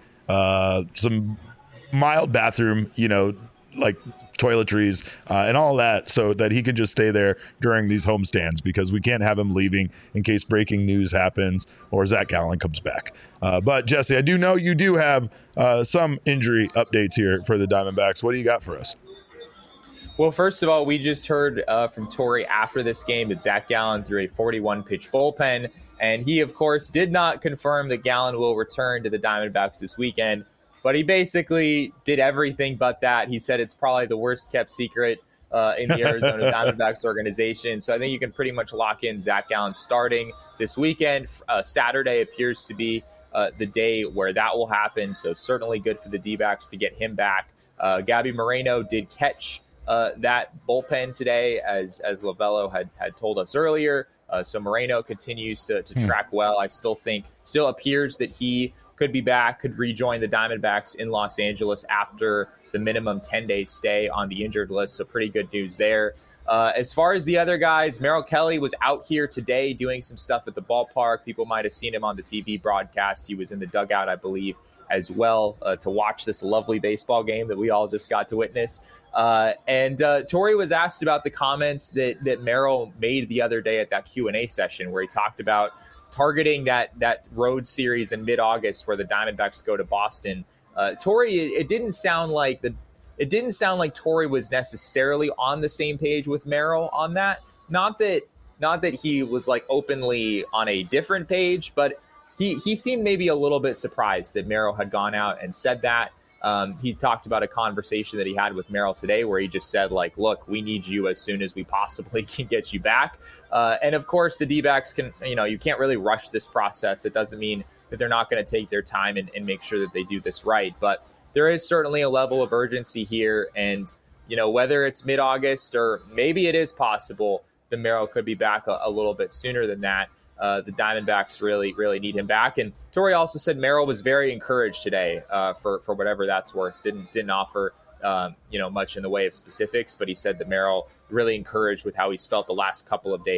some mild bathroom, like toiletries and all that, so that he can just stay there during these homestands, because we can't have him leaving in case breaking news happens or Zach Gallen comes back. But Jesse, I do know you do have some injury updates here for the Diamondbacks. What do you got for us? Well, first of all, we just heard from Torre after this game that Zach Gallen threw a 41-pitch bullpen, and he, of course, did not confirm that Gallen will return to the Diamondbacks this weekend. But he basically did everything but that. He said it's probably the worst kept secret in the Arizona Diamondbacks organization. So I think you can pretty much lock in Zach Gallen starting this weekend. Saturday appears to be the day where that will happen. So certainly good for the D-backs to get him back. Gabby Moreno did catch that bullpen today, as Lovello had told us earlier. So Moreno continues to track well. I still appears that he could be back, could rejoin the Diamondbacks in Los Angeles after the minimum 10-day stay on the injured list. So pretty good news there. As far as the other guys, Merrill Kelly was out here today doing some stuff at the ballpark. People might have seen him on the TV broadcast. He was in the dugout, I believe, as well, to watch this lovely baseball game that we all just got to witness. And Torre was asked about the comments that Merrill made the other day at that Q&A session, where he talked about targeting that road series in mid-August where the Diamondbacks go to Boston. Torre, it didn't sound like Torre was necessarily on the same page with Merrill on that. Not that he was like openly on a different page, but he seemed maybe a little bit surprised that Merrill had gone out and said that. He talked about a conversation that he had with Merrill today where he just said, like, look, we need you as soon as we possibly can get you back. And of course, the D-backs can, you can't really rush this process. It doesn't mean that they're not going to take their time and make sure that they do this right. But there is certainly a level of urgency here. And, whether it's mid-August or maybe it is possible that Merrill could be back a little bit sooner than that. The Diamondbacks really, really need him back. And Torre also said Merrill was very encouraged today for whatever that's worth. Didn't offer much in the way of specifics, but he said that Merrill really encouraged with how he's felt the last couple of days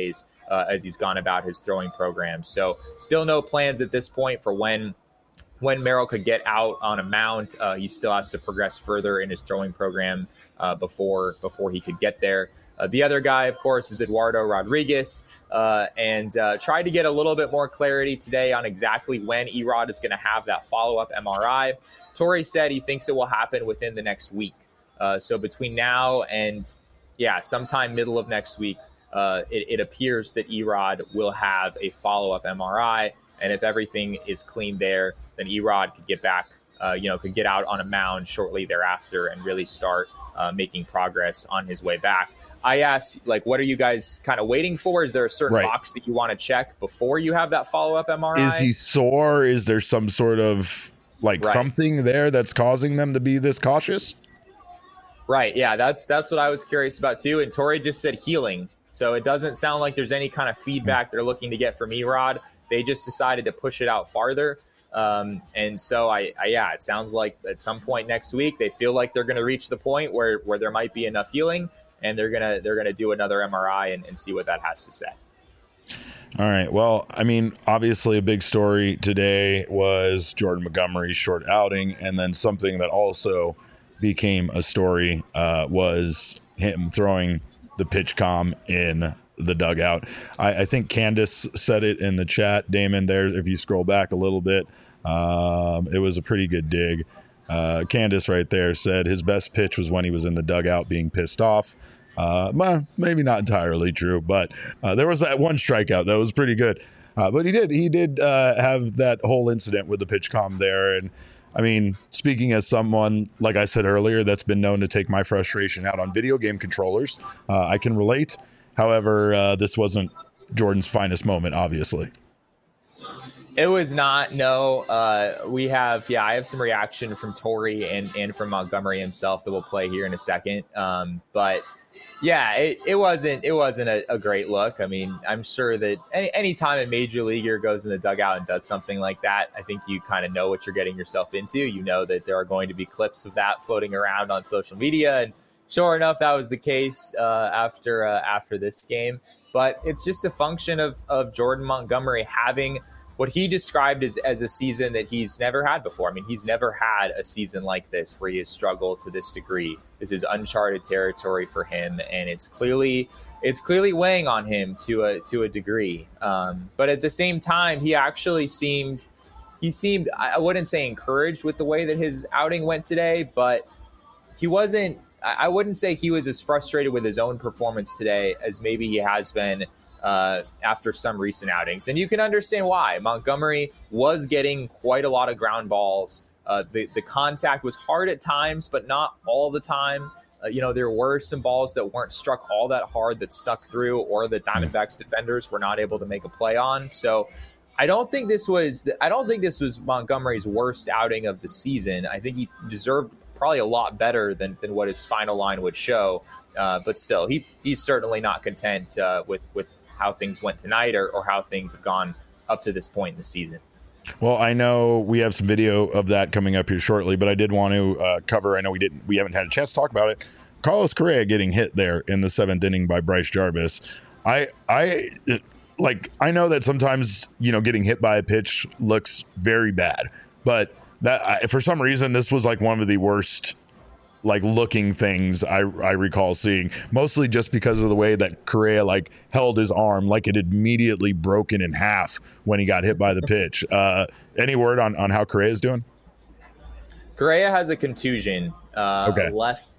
as he's gone about his throwing program. So still no plans at this point for when Merrill could get out on a mound. He still has to progress further in his throwing program before he could get there. The other guy, of course, is Eduardo Rodriguez, and tried to get a little bit more clarity today on exactly when Erod is going to have that follow-up MRI. Torrey said he thinks it will happen within the next week. So between now and, sometime middle of next week, it appears that Erod will have a follow-up MRI. And if everything is clean there, then Erod could get back, could get out on a mound shortly thereafter and really start making progress on his way back. I asked, what are you guys kind of waiting for? Is there a certain box that you want to check before you have that follow-up MRI? Is he sore? Is there some sort of something there that's causing them to be this cautious? Right. Yeah, that's what I was curious about too. And Torrey just said healing. So it doesn't sound like there's any kind of feedback they're looking to get from Erod. They just decided to push it out farther. And so it sounds like at some point next week, they feel like they're going to reach the point where there might be enough healing, and they're going to do another MRI and see what that has to say. All right. Well, I mean, obviously a big story today was Jordan Montgomery's short outing. And then something that also became a story was him throwing the pitch comm in the dugout. I think Candace said it in the chat, Damon, there, if you scroll back a little bit, it was a pretty good dig. Candace right there said his best pitch was when he was in the dugout being pissed off. Maybe not entirely true, but there was that one strikeout that was pretty good. But he did have that whole incident with the pitch comm there. And I mean, speaking as someone, like I said earlier, that's been known to take my frustration out on video game controllers, I can relate. However, this wasn't Jordan's finest moment, obviously. It was not. No, I have some reaction from Torrey and from Montgomery himself that we'll play here in a second. But yeah, it wasn't a great look. I mean, I'm sure that any time a major leaguer goes in the dugout and does something like that, I think you kind of know what you're getting yourself into. You know that there are going to be clips of that floating around on social media, and sure enough, that was the case after this game. But it's just a function of Jordan Montgomery having what he described as a season that he's never had before. I mean, he's never had a season like this where he has struggled to this degree. This is uncharted territory for him, and it's clearly weighing on him to a degree. But at the same time, he actually seemed, I wouldn't say encouraged with the way that his outing went today, but I wouldn't say he was as frustrated with his own performance today as maybe he has been after some recent outings. And you can understand why. Montgomery was getting quite a lot of ground balls. The contact was hard at times, but not all the time. There were some balls that weren't struck all that hard that stuck through, or the Diamondbacks defenders were not able to make a play on. So I don't think this was Montgomery's worst outing of the season. I think he deserved probably a lot better than what his final line would show. But still, he's certainly not content with how things went tonight or how things have gone up to this point in the season. Well, I know we have some video of that coming up here shortly, but I did want to cover, I know we haven't had a chance to talk about it, Carlos Correa getting hit there in the seventh inning by Bryce Jarvis. I know that sometimes, getting hit by a pitch looks very bad, but that for some reason, this was like one of the worst looking things I recall seeing, mostly just because of the way that Correa held his arm like it had immediately broken in half when he got hit by the pitch. Any word on how Correa is doing? Correa has a contusion. Okay. Left.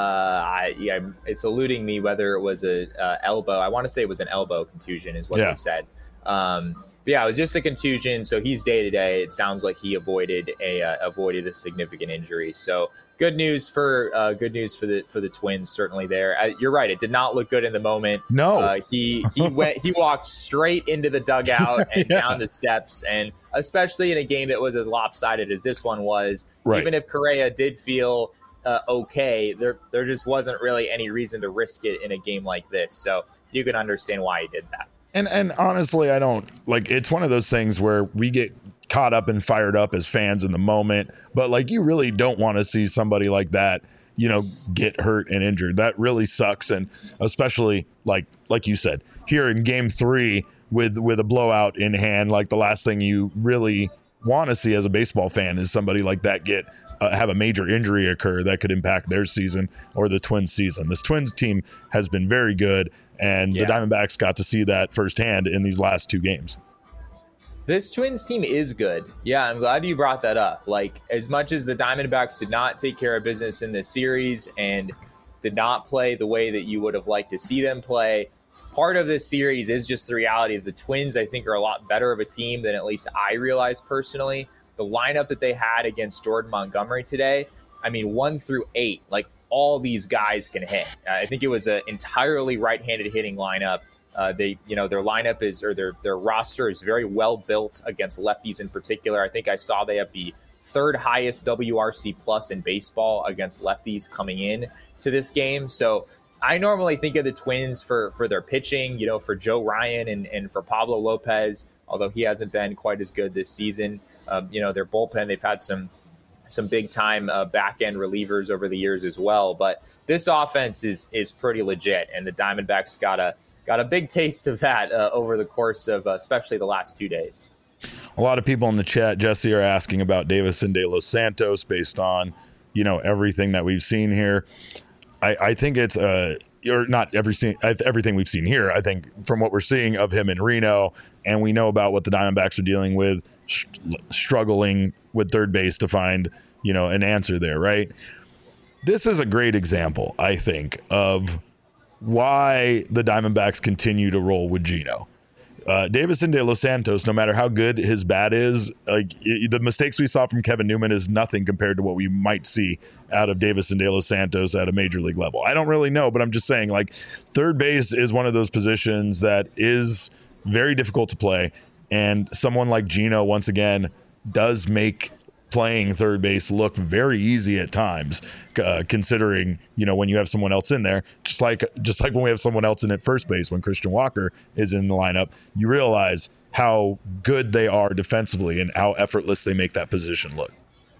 It's eluding me whether it was a elbow. I want to say it was an elbow contusion, is what they said. But yeah, it was just a contusion. So he's day to day. It sounds like he avoided a significant injury. So good news for the Twins, certainly there. You're right. It did not look good in the moment. No, he walked straight into the dugout and down the steps, and especially in a game that was as lopsided as this one was. Right. Even if Correa did feel okay, there just wasn't really any reason to risk it in a game like this. So you can understand why he did that. And honestly, I don't it's one of those things where we get caught up and fired up as fans in the moment, but you really don't want to see somebody like that get hurt and injured. That really sucks. And especially like you said, here in game 3 with a blowout in hand, like the last thing you really want to see as a baseball fan is somebody like that have a major injury occur that could impact their season or the Twins season. This Twins team has been very good, and the Diamondbacks got to see that firsthand in these last 2 games. This Twins team is good. Yeah, I'm glad you brought that up. Like, as much as the Diamondbacks did not take care of business in this series and did not play the way that you would have liked to see them play, part of this series is just the reality that the Twins, I think, are a lot better of a team than at least I realized personally. The lineup that they had against Jordan Montgomery today, 1 through 8, like all these guys can hit. I think it was an entirely right-handed hitting lineup. Their lineup is, or their roster is very well built against lefties in particular. I think I saw they have the 3rd highest WRC plus in baseball against lefties coming in to this game. So I normally think of the Twins for their pitching, for Joe Ryan and for Pablo Lopez, although he hasn't been quite as good this season. Their bullpen, they've had some big time back end relievers over the years as well. But this offense is pretty legit, and the Diamondbacks got a big taste of that over the course of especially the last 2 days. A lot of people in the chat, Jesse, are asking about Davison De Los Santos based on everything that we've seen here. I think it's or not everything we've seen here. I think from what we're seeing of him in Reno, and we know about what the Diamondbacks are dealing with, struggling with third base to find an answer there, right? This is a great example, I think, of why the Diamondbacks continue to roll with Gino. Davison De Los Santos, no matter how good his bat is, the mistakes we saw from Kevin Newman is nothing compared to what we might see out of Davison De Los Santos at a major league level. I don't really know, but I'm just saying, third base is one of those positions that is very difficult to play, and someone like Gino, once again, does make playing third base look very easy at times, considering when you have someone else in there, just like when we have someone else in at first base when Christian Walker is in the lineup, you realize how good they are defensively and how effortless they make that position look.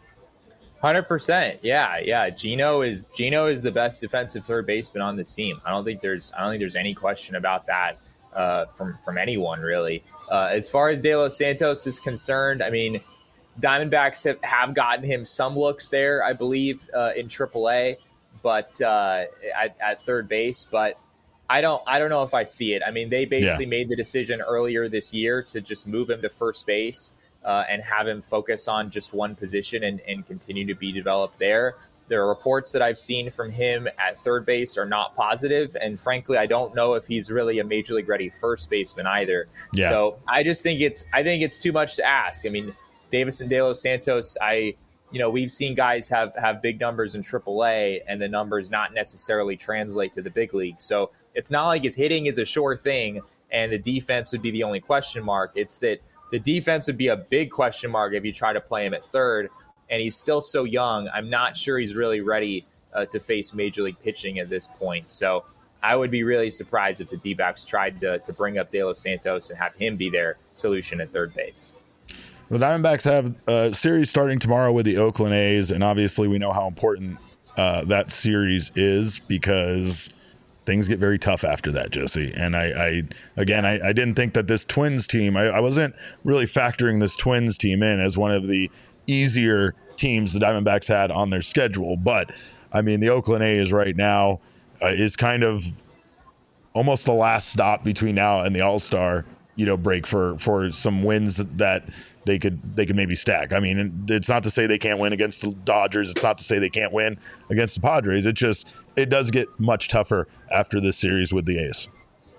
100%. Yeah. Gino is the best defensive third baseman on this team. I don't think there's any question about that from anyone really. As far as De Los Santos is concerned, Diamondbacks have gotten him some looks there, I believe, in AAA, but at third base. But I don't know if I see it. They basically made the decision earlier this year to just move him to first base and have him focus on just one position and continue to be developed there. There are reports that I've seen from him at third base are not positive, and frankly, I don't know if he's really a major league ready first baseman either. Yeah. So I just think it's too much to ask. Davison De Los Santos, we've seen guys have big numbers in AAA and the numbers not necessarily translate to the big league. So it's not like his hitting is a sure thing and the defense would be the only question mark. It's that the defense would be a big question mark if you try to play him at third, and he's still so young. I'm not sure he's really ready to face major league pitching at this point. So I would be really surprised if the D-backs tried to bring up De Los Santos and have him be their solution at third base. The Diamondbacks have a series starting tomorrow with the Oakland A's, and obviously we know how important that series is because things get very tough after that, Jesse. And I didn't think that this Twins team, I wasn't really factoring this Twins team in as one of the easier teams the Diamondbacks had on their schedule. But, the Oakland A's right now is kind of almost the last stop between now and the All-Star break for some wins that they could maybe stack. It's not to say they can't win against the Dodgers. It's not to say they can't win against the Padres. It does get much tougher after this series with the A's.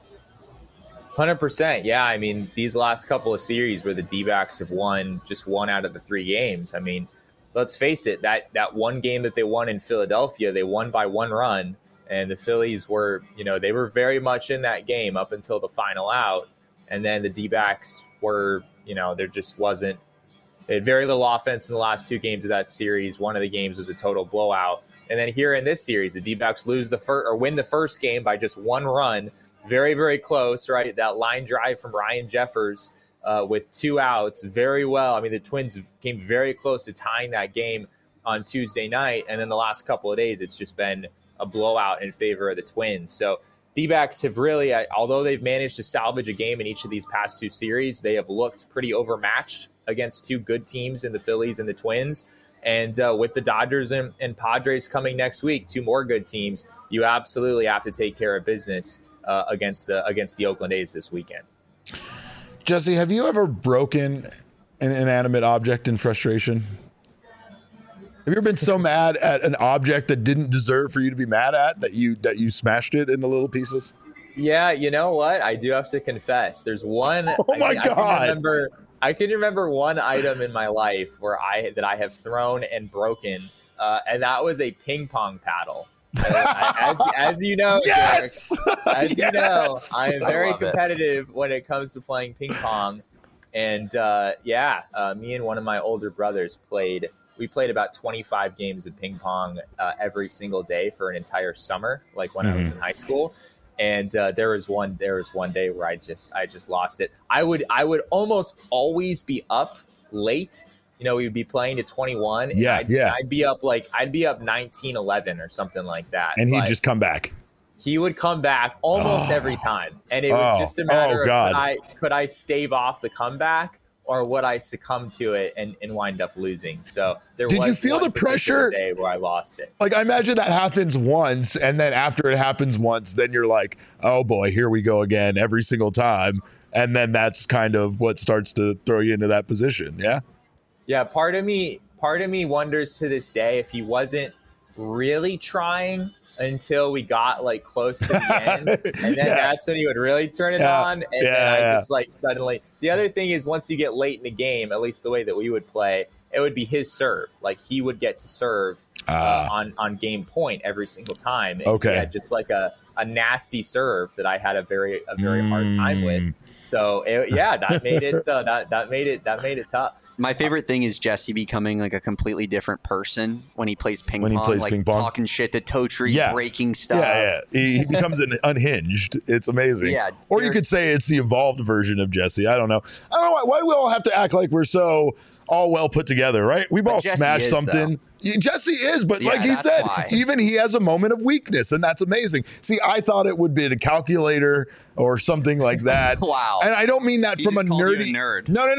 100%. Yeah. These last couple of series where the D-backs have won just one out of the 3 games. Let's face it, that one game that they won in Philadelphia, they won by 1 run, and the Phillies were, they were very much in that game up until the final out. And then the D-backs were, there just wasn't – they had very little offense in the last 2 games of that series. One of the games was a total blowout. And then here in this series, the D-backs win the first game by just 1 run. Very, very close, right? That line drive from Ryan Jeffers with 2 outs. Very well. The Twins came very close to tying that game on Tuesday night. And then the last couple of days, it's just been a blowout in favor of the Twins. So D-backs have really, although they've managed to salvage a game in each of these past 2 series, they have looked pretty overmatched against 2 good teams in the Phillies and the Twins. And with the Dodgers and Padres coming next week, 2 more good teams, you absolutely have to take care of business against the Oakland A's this weekend. Jesse, have you ever broken an inanimate object in frustration? Have you ever been so mad at an object that didn't deserve for you to be mad at that you smashed it into little pieces? Yeah, you know what? I do have to confess. There's one. Oh my God! I can remember one item in my life where I have thrown and broken, and that was a ping pong paddle. As you know, yes! Derek, you know, I am very competitive when it comes to playing ping pong, and me and one of my older brothers played about 25 games of ping pong every single day for an entire summer, like when I was in high school. And there was one day where I just lost it. I would almost always be up late. You know, we would be playing to 21. I'd be up 19-11 or something like that. And he'd just come back. He would come back almost every time. And it was just a matter of could I stave off the comeback, or would I succumb to it and wind up losing? So did you feel the pressure day where I lost it? Like, I imagine that happens once, and then after it happens once, then you're like, oh boy, here we go again every single time. And then that's kind of what starts to throw you into that position. Yeah. Yeah. Part of me wonders to this day if he wasn't really trying until we got like close to the end, and then that's when he would really turn it on, and then I just like suddenly. The other thing is, once you get late in the game, at least the way that we would play, it would be his serve. Like, he would get to serve on game point every single time. And he had just like a nasty serve that I had a very hard time with. So that made it that made it tough. My favorite thing is Jesse becoming like a completely different person when he plays ping pong, talking shit to Totri, breaking stuff. Yeah. He becomes unhinged. It's amazing. Yeah. Or you could say it's the evolved version of Jesse. I don't know why do we all have to act like we're so all well put together, right? We've all smashed something. Jesse is, but like he said, even he has a moment of weakness, and that's amazing. See, I thought it would be a calculator or something like that. Wow. And I don't mean that from a nerdy nerd. No.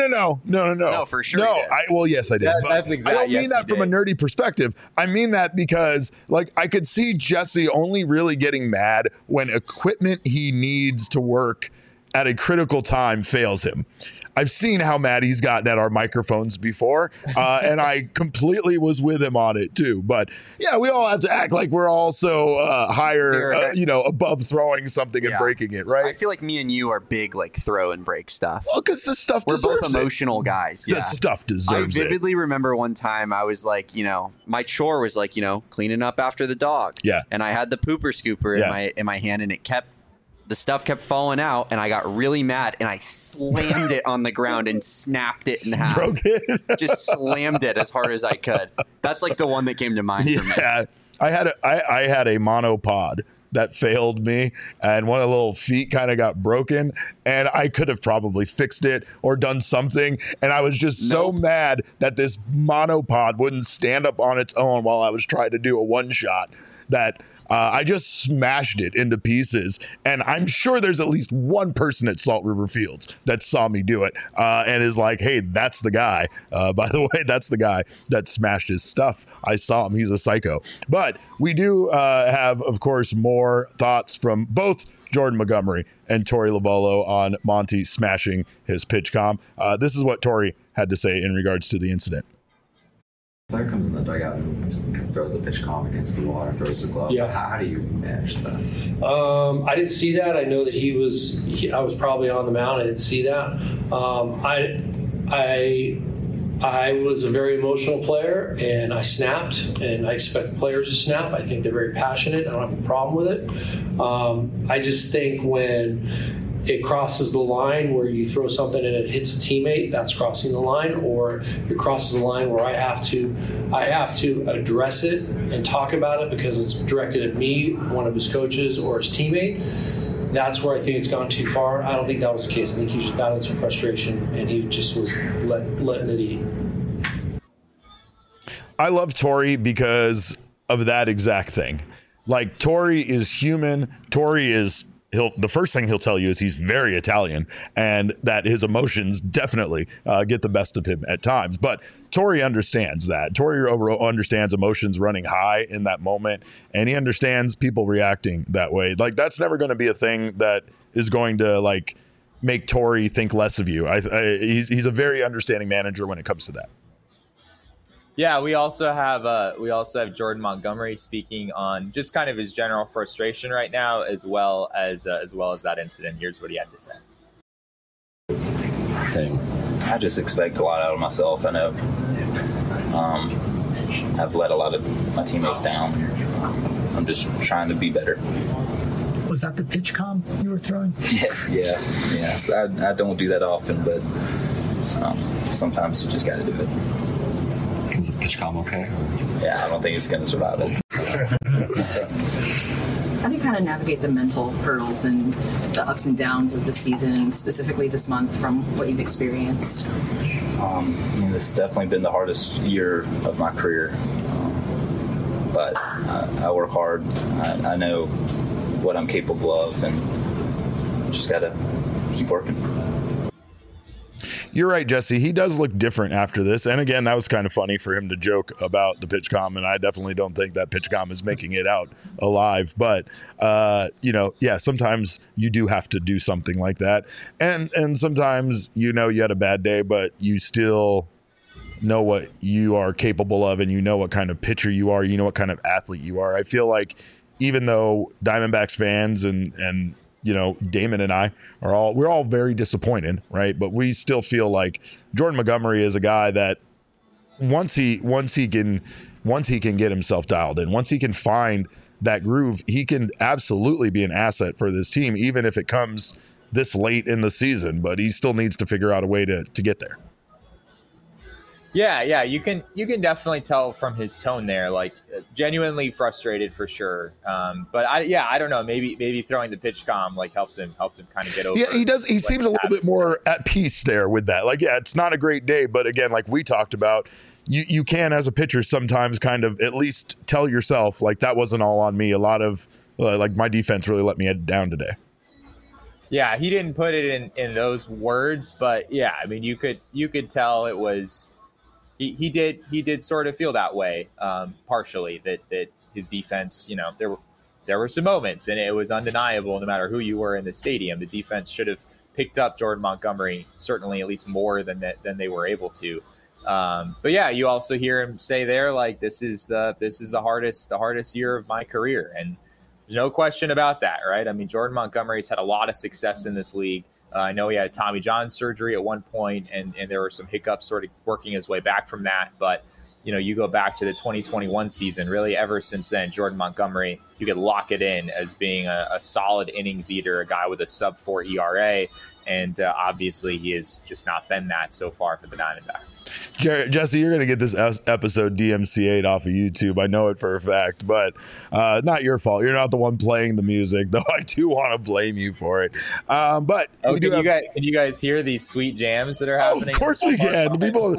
No, for sure. No, yes, I did. That's exactly. I don't mean that from a nerdy perspective. I mean that because, like, I could see Jesse only really getting mad when equipment he needs to work at a critical time fails him. I've seen how mad he's gotten at our microphones before, and I completely was with him on it too. But yeah, we all have to act like we're also higher, above throwing something and breaking it, right? I feel like me and you are big, like, throw and break stuff. Well, because the stuff we're deserves both emotional guys. Yeah. The stuff deserves it. I vividly remember one time I was like, my chore was like, cleaning up after the dog. Yeah. And I had the pooper scooper in my hand, and the stuff kept falling out, and I got really mad, and I slammed it on the ground and snapped it in half. Broke it. Just slammed it as hard as I could. That's like the one that came to mind for me. Yeah, I had a monopod that failed me, and one of the little feet kind of got broken, and I could have probably fixed it or done something, and I was just so mad that this monopod wouldn't stand up on its own while I was trying to do a one shot that I just smashed it into pieces, and I'm sure there's at least one person at Salt River Fields that saw me do it and is like, hey, that's the guy. By the way, that's the guy that smashed his stuff. I saw him. He's a psycho. But we do have, of course, more thoughts from both Jordan Montgomery and Torey Lovullo on Monty smashing his pitch comm. This is what Torey had to say in regards to the incident. Player comes in the dugout and throws the pitch comm against the wall or throws the glove. Yeah. How do you manage that? I didn't see that. I know that I was probably on the mound. I didn't see that. I was a very emotional player, and I snapped, and I expect players to snap. I think they're very passionate. I don't have a problem with it. I just think when it crosses the line where you throw something and it hits a teammate, that's crossing the line, or it crosses the line where I have to address it and talk about it because it's directed at me, one of his coaches, or his teammate. That's where I think it's gone too far. I don't think that was the case. I think he was just battling some frustration, and he just was letting it eat. I love Torey because of that exact thing. Like, Torey is human. Torey is, the first thing he'll tell you is he's very Italian, and that his emotions definitely get the best of him at times. But Torey understands that. Torey understands emotions running high in that moment, and he understands people reacting that way. Like, that's never going to be a thing that is going to, like, make Torey think less of you. He's a very understanding manager when it comes to that. Yeah, we also have Jordan Montgomery speaking on just kind of his general frustration right now, as well as that incident. Here's what he had to say. I just expect a lot out of myself. I know I've let a lot of my teammates down. I'm just trying to be better. Was that the pitch com you were throwing? Yes. I don't do that often, but sometimes you just got to do it. Is the pitch com okay? Yeah, I don't think it's going to survive it. How do you kind of navigate the mental hurdles and the ups and downs of the season, specifically this month, from what you've experienced? This has definitely been the hardest year of my career. But I work hard. I know what I'm capable of, and just got to keep working. You're right, Jesse. He does look different after this. And again, that was kind of funny for him to joke about the pitch com, and I definitely don't think that pitch com is making it out alive. But, sometimes you do have to do something like that. And sometimes, you had a bad day, but you still know what you are capable of, and you know what kind of pitcher you are. You know what kind of athlete you are. I feel like even though Diamondbacks fans and Damon and I we're all very disappointed, right? But we still feel like Jordan Montgomery is a guy that once he can get himself dialed in, once he can find that groove, he can absolutely be an asset for this team, even if it comes this late in the season. But he still needs to figure out a way to get there. Yeah, you can definitely tell from his tone there, like genuinely frustrated for sure. But I don't know, maybe throwing the pitch com like helped him kind of get over. Yeah, he does. He seems a little bit more at peace there with that. Like, yeah, it's not a great day, but again, like we talked about, you can as a pitcher sometimes kind of at least tell yourself like that wasn't all on me. A lot of like my defense really let me down today. Yeah, he didn't put it in those words, but yeah, I mean you could tell it was. He did sort of feel that way, partially, that his defense, there were some moments, and it was undeniable no matter who you were in the stadium. The defense should have picked up Jordan Montgomery, certainly at least more than they were able to. But yeah, you also hear him say there, like, this is the hardest year of my career. And there's no question about that, right? I mean, Jordan Montgomery's had a lot of success in this league. I know he had Tommy John surgery at one point, and there were some hiccups sort of working his way back from that. But, you go back to the 2021 season, really ever since then, Jordan Montgomery, you could lock it in as being a solid innings eater, a guy with a sub-4 ERA. And obviously he has just not been that so far for the Diamondbacks. Jesse, you're going to get this episode DMCA'd off of YouTube. I know it for a fact, but not your fault. You're not the one playing the music, though I do want to blame you for it. But can you guys hear these sweet jams that are happening? Of course we can.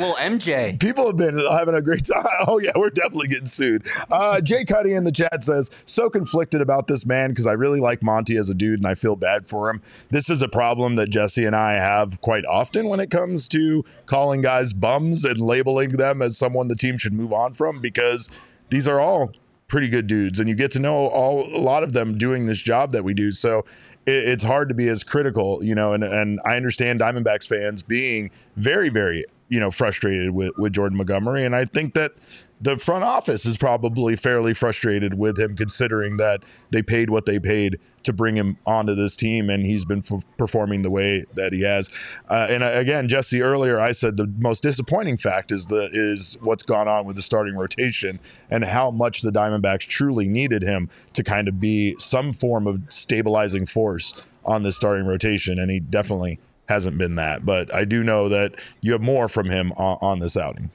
MJ. People have been having a great time. Oh, yeah, we're definitely getting sued. Jay Cuddy in the chat says, so conflicted about this man because I really like Monty as a dude and I feel bad for him. This is a problem that Jesse and I have quite often when it comes to calling guys bums and labeling them as someone the team should move on from, because these are all pretty good dudes and you get to know a lot of them doing this job that we do. So it's hard to be as critical, and I understand Diamondbacks fans being very, very, frustrated with Jordan Montgomery. And I think that the front office is probably fairly frustrated with him, considering that they paid what they paid to bring him onto this team, and he's been performing the way that he has. And again, Jesse, earlier I said the most disappointing fact is what's gone on with the starting rotation and how much the Diamondbacks truly needed him to kind of be some form of stabilizing force on the starting rotation, and he definitely hasn't been that. But I do know that you have more from him on this outing.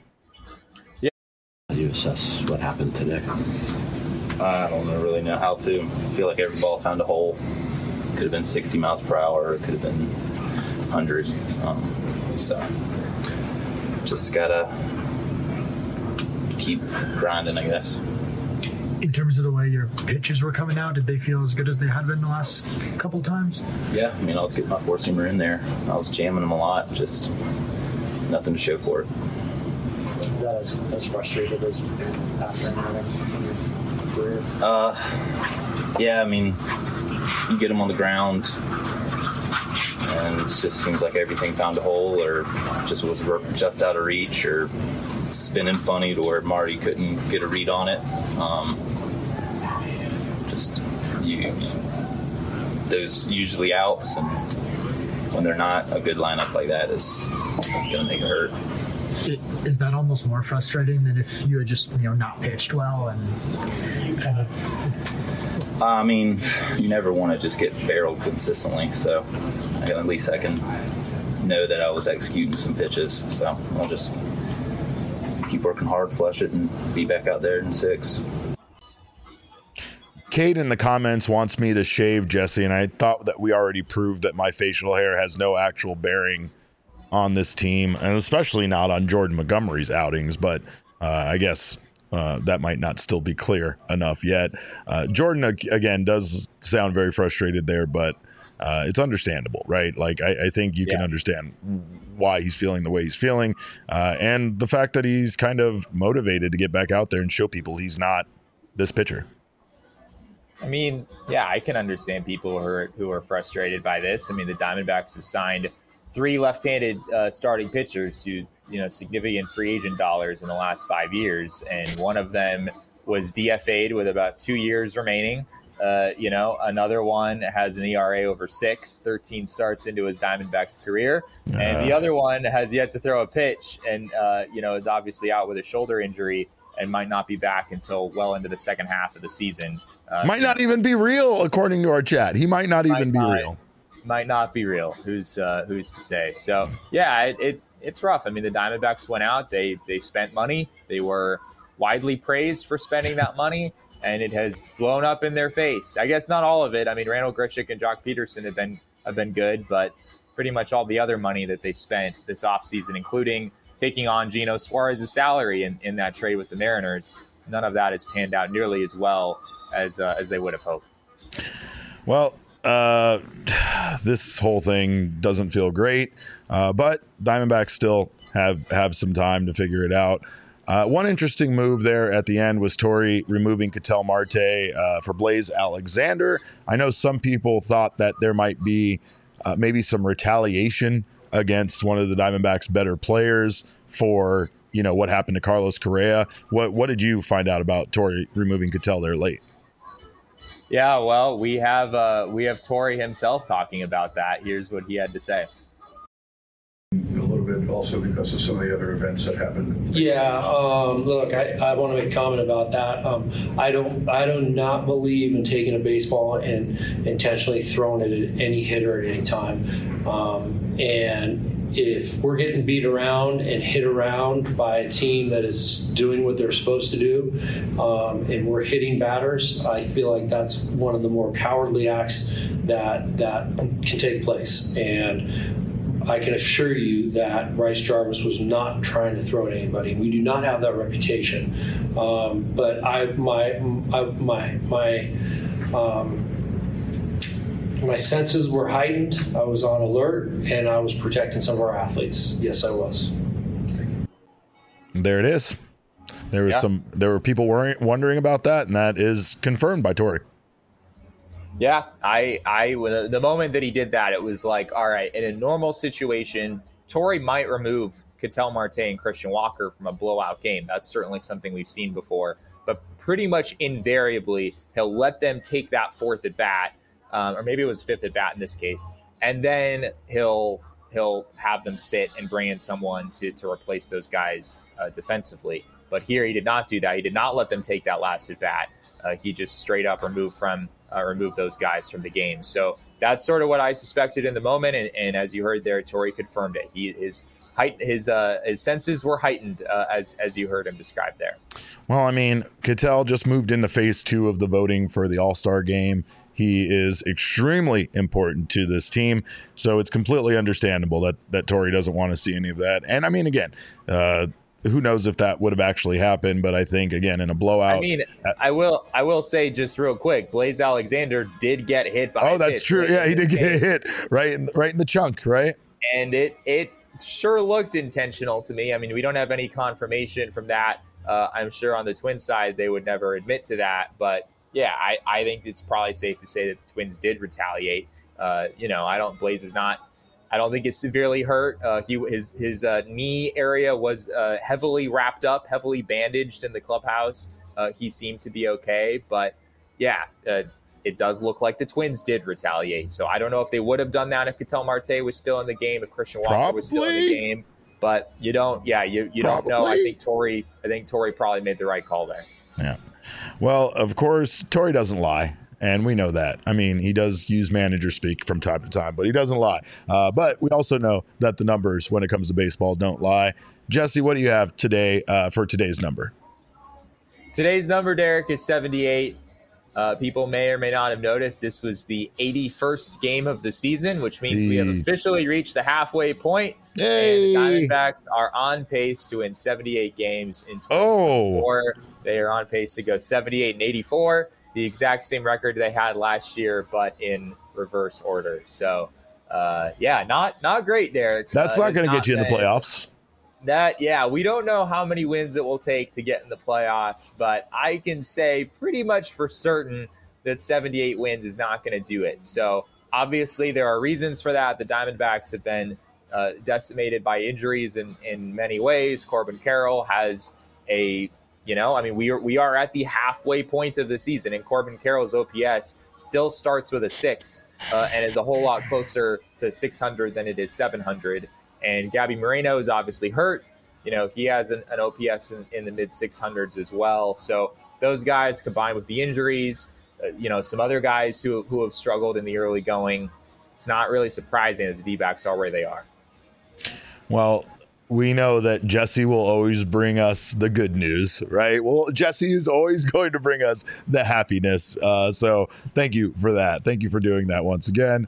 How do you assess what happened today? I don't really know how to. I feel like every ball found a hole. Could have been 60 miles per hour. It could have been 100. So just gotta keep grinding, I guess. In terms of the way your pitches were coming out, did they feel as good as they had been the last couple of times? Yeah, I mean, I was getting my four-seamer in there. I was jamming them a lot, just nothing to show for it. Is that as frustrated as after having in your career? Yeah, I mean, you get them on the ground, and it just seems like everything found a hole or just was just out of reach or spinning funny to where Marty couldn't get a read on it. Those usually outs, and when they're not, a good lineup like that is going to make it hurt. Is that almost more frustrating than if you had just not pitched well and kind of? I mean, you never want to just get barreled consistently, so at least I can know that I was executing some pitches. So I'll just keep working hard, flush it, and be back out there in 6. Kate in the comments wants me to shave Jesse, and I thought that we already proved that my facial hair has no actual bearing on this team, and especially not on Jordan Montgomery's outings, but I guess that might not still be clear enough yet. Jordan, again, does sound very frustrated there, but it's understandable, right? Like, I think you can understand why he's feeling the way he's feeling, and the fact that he's kind of motivated to get back out there and show people he's not this pitcher. I mean, yeah, I can understand people who are frustrated by this. I mean, the Diamondbacks have signed 3 left-handed starting pitchers to significant free agent dollars in the last 5 years, and one of them was DFA'd with about 2 years remaining. Another one has an ERA over 6, 13 starts into his Diamondbacks career, and the other one has yet to throw a pitch, and is obviously out with a shoulder injury and might not be back until well into the second half of the season. Might not even be real, according to our chat. He might not even be real. Might not be real. Who's to say? So yeah, it's rough. I mean, the Diamondbacks went out. They spent money. They were widely praised for spending that money, and it has blown up in their face. I guess not all of it. I mean, Randall Grichuk and Jock Peterson have been good, but pretty much all the other money that they spent this offseason, including taking on Gino Suarez's salary in that trade with the Mariners, none of that has panned out nearly as well as they would have hoped. Well, this whole thing doesn't feel great, but Diamondbacks still have some time to figure it out. One interesting move there at the end was Torey removing Ketel Marte for Blaze Alexander. I know some people thought that there might be maybe some retaliation against one of the Diamondbacks' better players for what happened to Carlos Correa. What did you find out about Torey removing Ketel there late? Yeah, well, we have Torey himself talking about that. Here's what he had to say. A little bit also because of some of the other events that happened. Yeah, look, I want to make a comment about that. I do not believe in taking a baseball and intentionally throwing it at any hitter at any time. And if we're getting beat around and hit around by a team that is doing what they're supposed to do, and we're hitting batters, I feel like that's one of the more cowardly acts that can take place. And I can assure you that Bryce Jarvis was not trying to throw at anybody. We do not have that reputation. But my senses were heightened. I was on alert, and I was protecting some of our athletes. Yes, I was. There it is. There were people wondering about that, and that is confirmed by Torey. Yeah, the moment that he did that, it was like, all right, in a normal situation, Torey might remove Ketel Marte and Christian Walker from a blowout game. That's certainly something we've seen before. But pretty much invariably, he'll let them take that 4th at bat, or maybe it was 5th at bat in this case, and then he'll have them sit and bring in someone to replace those guys defensively. But here he did not do that. He did not let them take that last at bat. He just straight up removed those guys from the game. So that's sort of what I suspected in the moment. And as you heard there, Torey confirmed it. His senses were heightened as you heard him describe there. Well, I mean, Ketel just moved into phase 2 of the voting for the All-Star game. He is extremely important to this team, so it's completely understandable that Torey doesn't want to see any of that. And I mean, again, who knows if that would have actually happened, but I think, again, in a blowout. I mean, I will say just real quick, Blaze Alexander did get hit by Oh, that's true. Yeah, he did get hit right in the chunk, right? And it sure looked intentional to me. I mean, we don't have any confirmation from that. I'm sure on the Twins side, they would never admit to that. But yeah, I think it's probably safe to say that the Twins did retaliate. Blaze is not. I don't think it's severely hurt. His knee area was heavily wrapped up, heavily bandaged in the clubhouse. He seemed to be okay, but yeah, it does look like the Twins did retaliate. So I don't know if they would have done that if Ketel Marte was still in the game, if Christian Walker was still in the game. But you don't know. I think Torrey probably made the right call there. Yeah. Well, of course, Torrey doesn't lie. And we know that. I mean, he does use manager speak from time to time, but he doesn't lie. But we also know that the numbers when it comes to baseball don't lie. Jesse, what do you have today for today's number? Today's number, Derek, is 78. People may or may not have noticed this was the 81st game of the season, which means we have officially reached the halfway point. Yay. And the Diamondbacks are on pace to win 78 games in 2024. They are on pace to go 78-84. The exact same record they had last year, but in reverse order. So, not great, Derek. That's not going to get you in the playoffs. We don't know how many wins it will take to get in the playoffs, but I can say pretty much for certain that 78 wins is not going to do it. So, obviously, there are reasons for that. The Diamondbacks have been decimated by injuries in many ways. Corbin Carroll has we are at the halfway point of the season, and Corbin Carroll's OPS still starts with a 6 and is a whole lot closer to 600 than it is 700. And Gabby Moreno is obviously hurt. He has an OPS in the mid 600s as well. So those guys combined with the injuries, some other guys who have struggled in the early going, it's not really surprising that the D-backs are where they are. Well, we know that Jesse will always bring us the good news, right? Well, Jesse is always going to bring us the happiness. So thank you for that. Thank you for doing that once again.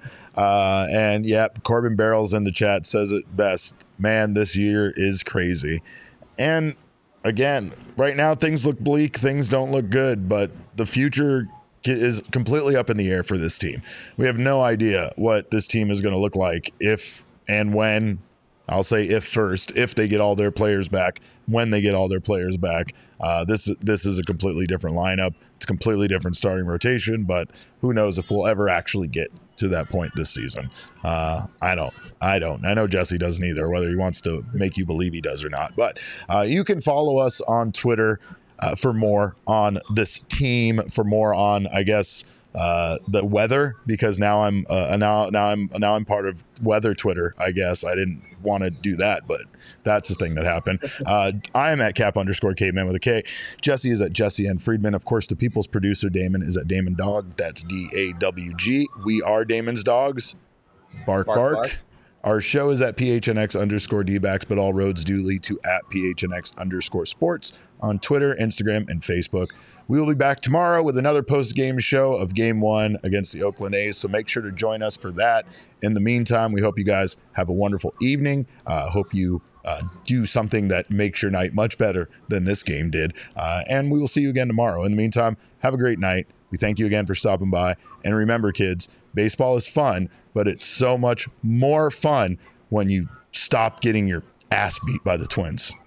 Corbin Barrels in the chat says it best. Man, this year is crazy. And again, right now things look bleak. Things don't look good, but the future is completely up in the air for this team. We have no idea what this team is going to look like if and when. I'll say if they get all their players back, when they get all their players back. This is a completely different lineup. It's a completely different starting rotation, but who knows if we'll ever actually get to that point this season. I don't. I know Jesse doesn't either, whether he wants to make you believe he does or not. But you can follow us on Twitter for more on this team, for more on, I guess, the weather, because now I'm part of weather Twitter. I guess I didn't want to do that, but that's the thing that happened. I am at Cap_Caveman with a K. Jesse is at Jesse N. Friedman. Of course, the people's producer Damon is at Damon Dog. That's DAWG. We are Damon's dogs. Bark, bark. Our show is at PHNX_DBacks, but all roads do lead to at PHNX_sports on Twitter, Instagram, and Facebook. We will be back tomorrow with another post-game show of Game 1 against the Oakland A's, so make sure to join us for that. In the meantime, we hope you guys have a wonderful evening. Hope you do something that makes your night much better than this game did. And we will see you again tomorrow. In the meantime, have a great night. We thank you again for stopping by. And remember, kids, baseball is fun, but it's so much more fun when you stop getting your ass beat by the Twins.